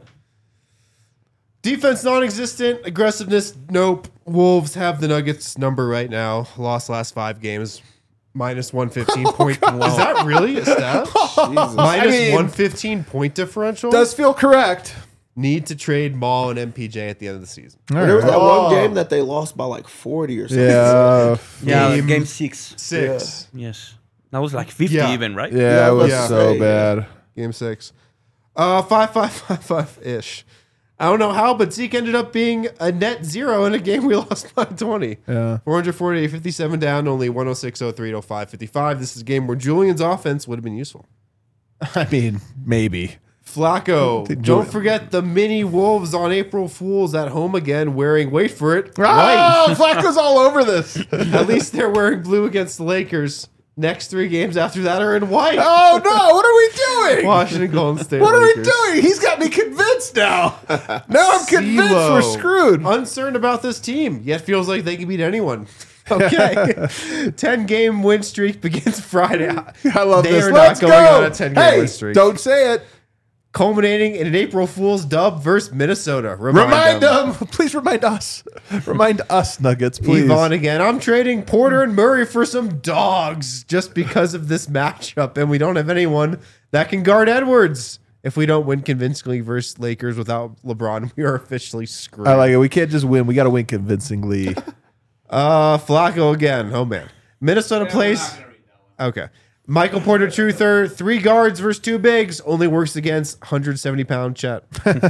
Defense non-existent. Aggressiveness, nope. Wolves have the Nuggets number right now. Lost last five games. Minus one fifteen point. Is that really a stat? Minus I mean- one fifteen point differential. Does feel correct. Need to trade Maul and M P J at the end of the season. There was that one game that they lost by like forty or something. Yeah, Yeah, Game game, six. Six. Yes. That was like fifty Yeah. even, right? yeah, it was Yeah. so Yeah. bad. Game six. Uh, five, five, five, five ish. I don't know how, but Zeke ended up being a net zero in a game we lost by twenty. Yeah. four forty-eight, fifty-seven down, only one oh six, oh three, oh five, fifty-five. This is a game where Julian's offense would have been useful. I mean, maybe. Flacco. Did Don't Julian- forget the mini Wolves on April Fools at home again, wearing, wait for it, white. Oh, Flacco's all over this. At least they're wearing blue against the Lakers. Next three games after that are in white. Oh no! What are we doing? Washington Golden State What are Lakers. we doing? He's got me convinced now. Now I'm convinced CeeLo. we're screwed. Uncertain about this team, yet feels like they can beat anyone. Okay. ten game win streak begins Friday. I love they this. are Let's not going go. on a ten game Hey, win streak. don't say it. Culminating in an April Fool's dub versus Minnesota. Remind, Remind them. them. Please remind us. Remind us, Nuggets, please. Yvonne again. I'm trading Porter and Murray for some dogs just because of this matchup, and we don't have anyone that can guard Edwards. If we don't win convincingly versus Lakers without LeBron, we are officially screwed. I like it. We can't just win. We got to win convincingly. Uh, Flacco again. Oh man, Minnesota plays. Okay, Michael Porter Truther, three guards versus two bigs, only works against one hundred seventy pound Chet.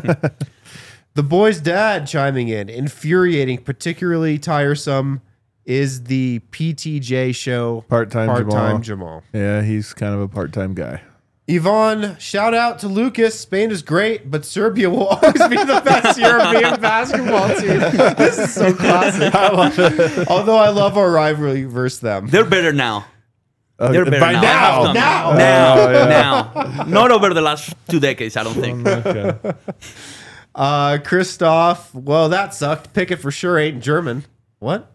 The boy's dad chiming in, infuriating, particularly tiresome. Is the P T J show Part-time part-time Jamal. Jamal. Yeah, he's kind of a part-time guy. Yvonne, shout out to Lucas. Spain is great, but Serbia will always be the best European basketball team. This is so classic. I love it. Although I love our rivalry versus them. They're better now. Uh, They're better by now. now. I have to- now. Now. Oh, yeah. Now. Not over the last two decades, I don't think. Okay. Uh, Christoph, well, that sucked. Pickett for sure ain't German. What?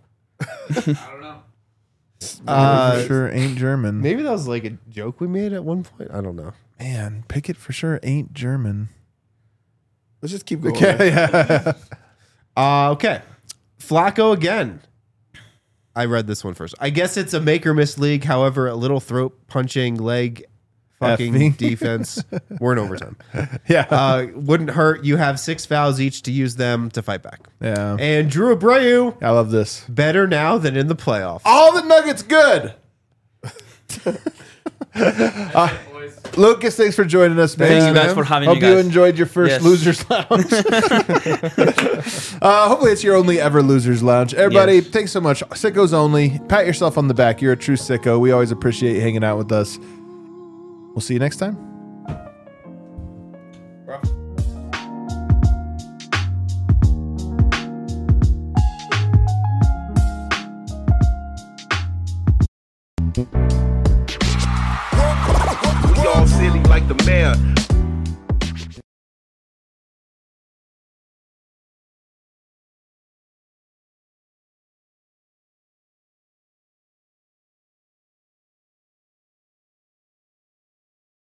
Uh, for sure ain't German. Maybe that was like a joke we made at one point. I don't know. Man, Pickett for sure ain't German. Let's just keep going. Okay, yeah. Uh, okay. Flacco again. I read this one first. I guess it's a make or miss league. However, a little throat punching leg fucking Effing. defense. We're in overtime. Yeah. Uh, wouldn't hurt. You have six fouls each to use them to fight back. yeah. And Drew Abreu, I love this. better now than in the playoffs. All the Nuggets good. Uh, Lucas, thanks for joining us, man. Thank you guys for having Hope me, guys. you enjoyed your first Yes. Losers Lounge. uh, hopefully, it's your only ever Losers Lounge. Everybody, Yes. thanks so much. Sickos only. Pat yourself on the back. You're a true sicko. We always appreciate you hanging out with us. We'll see you next time. We all silly like the mayor.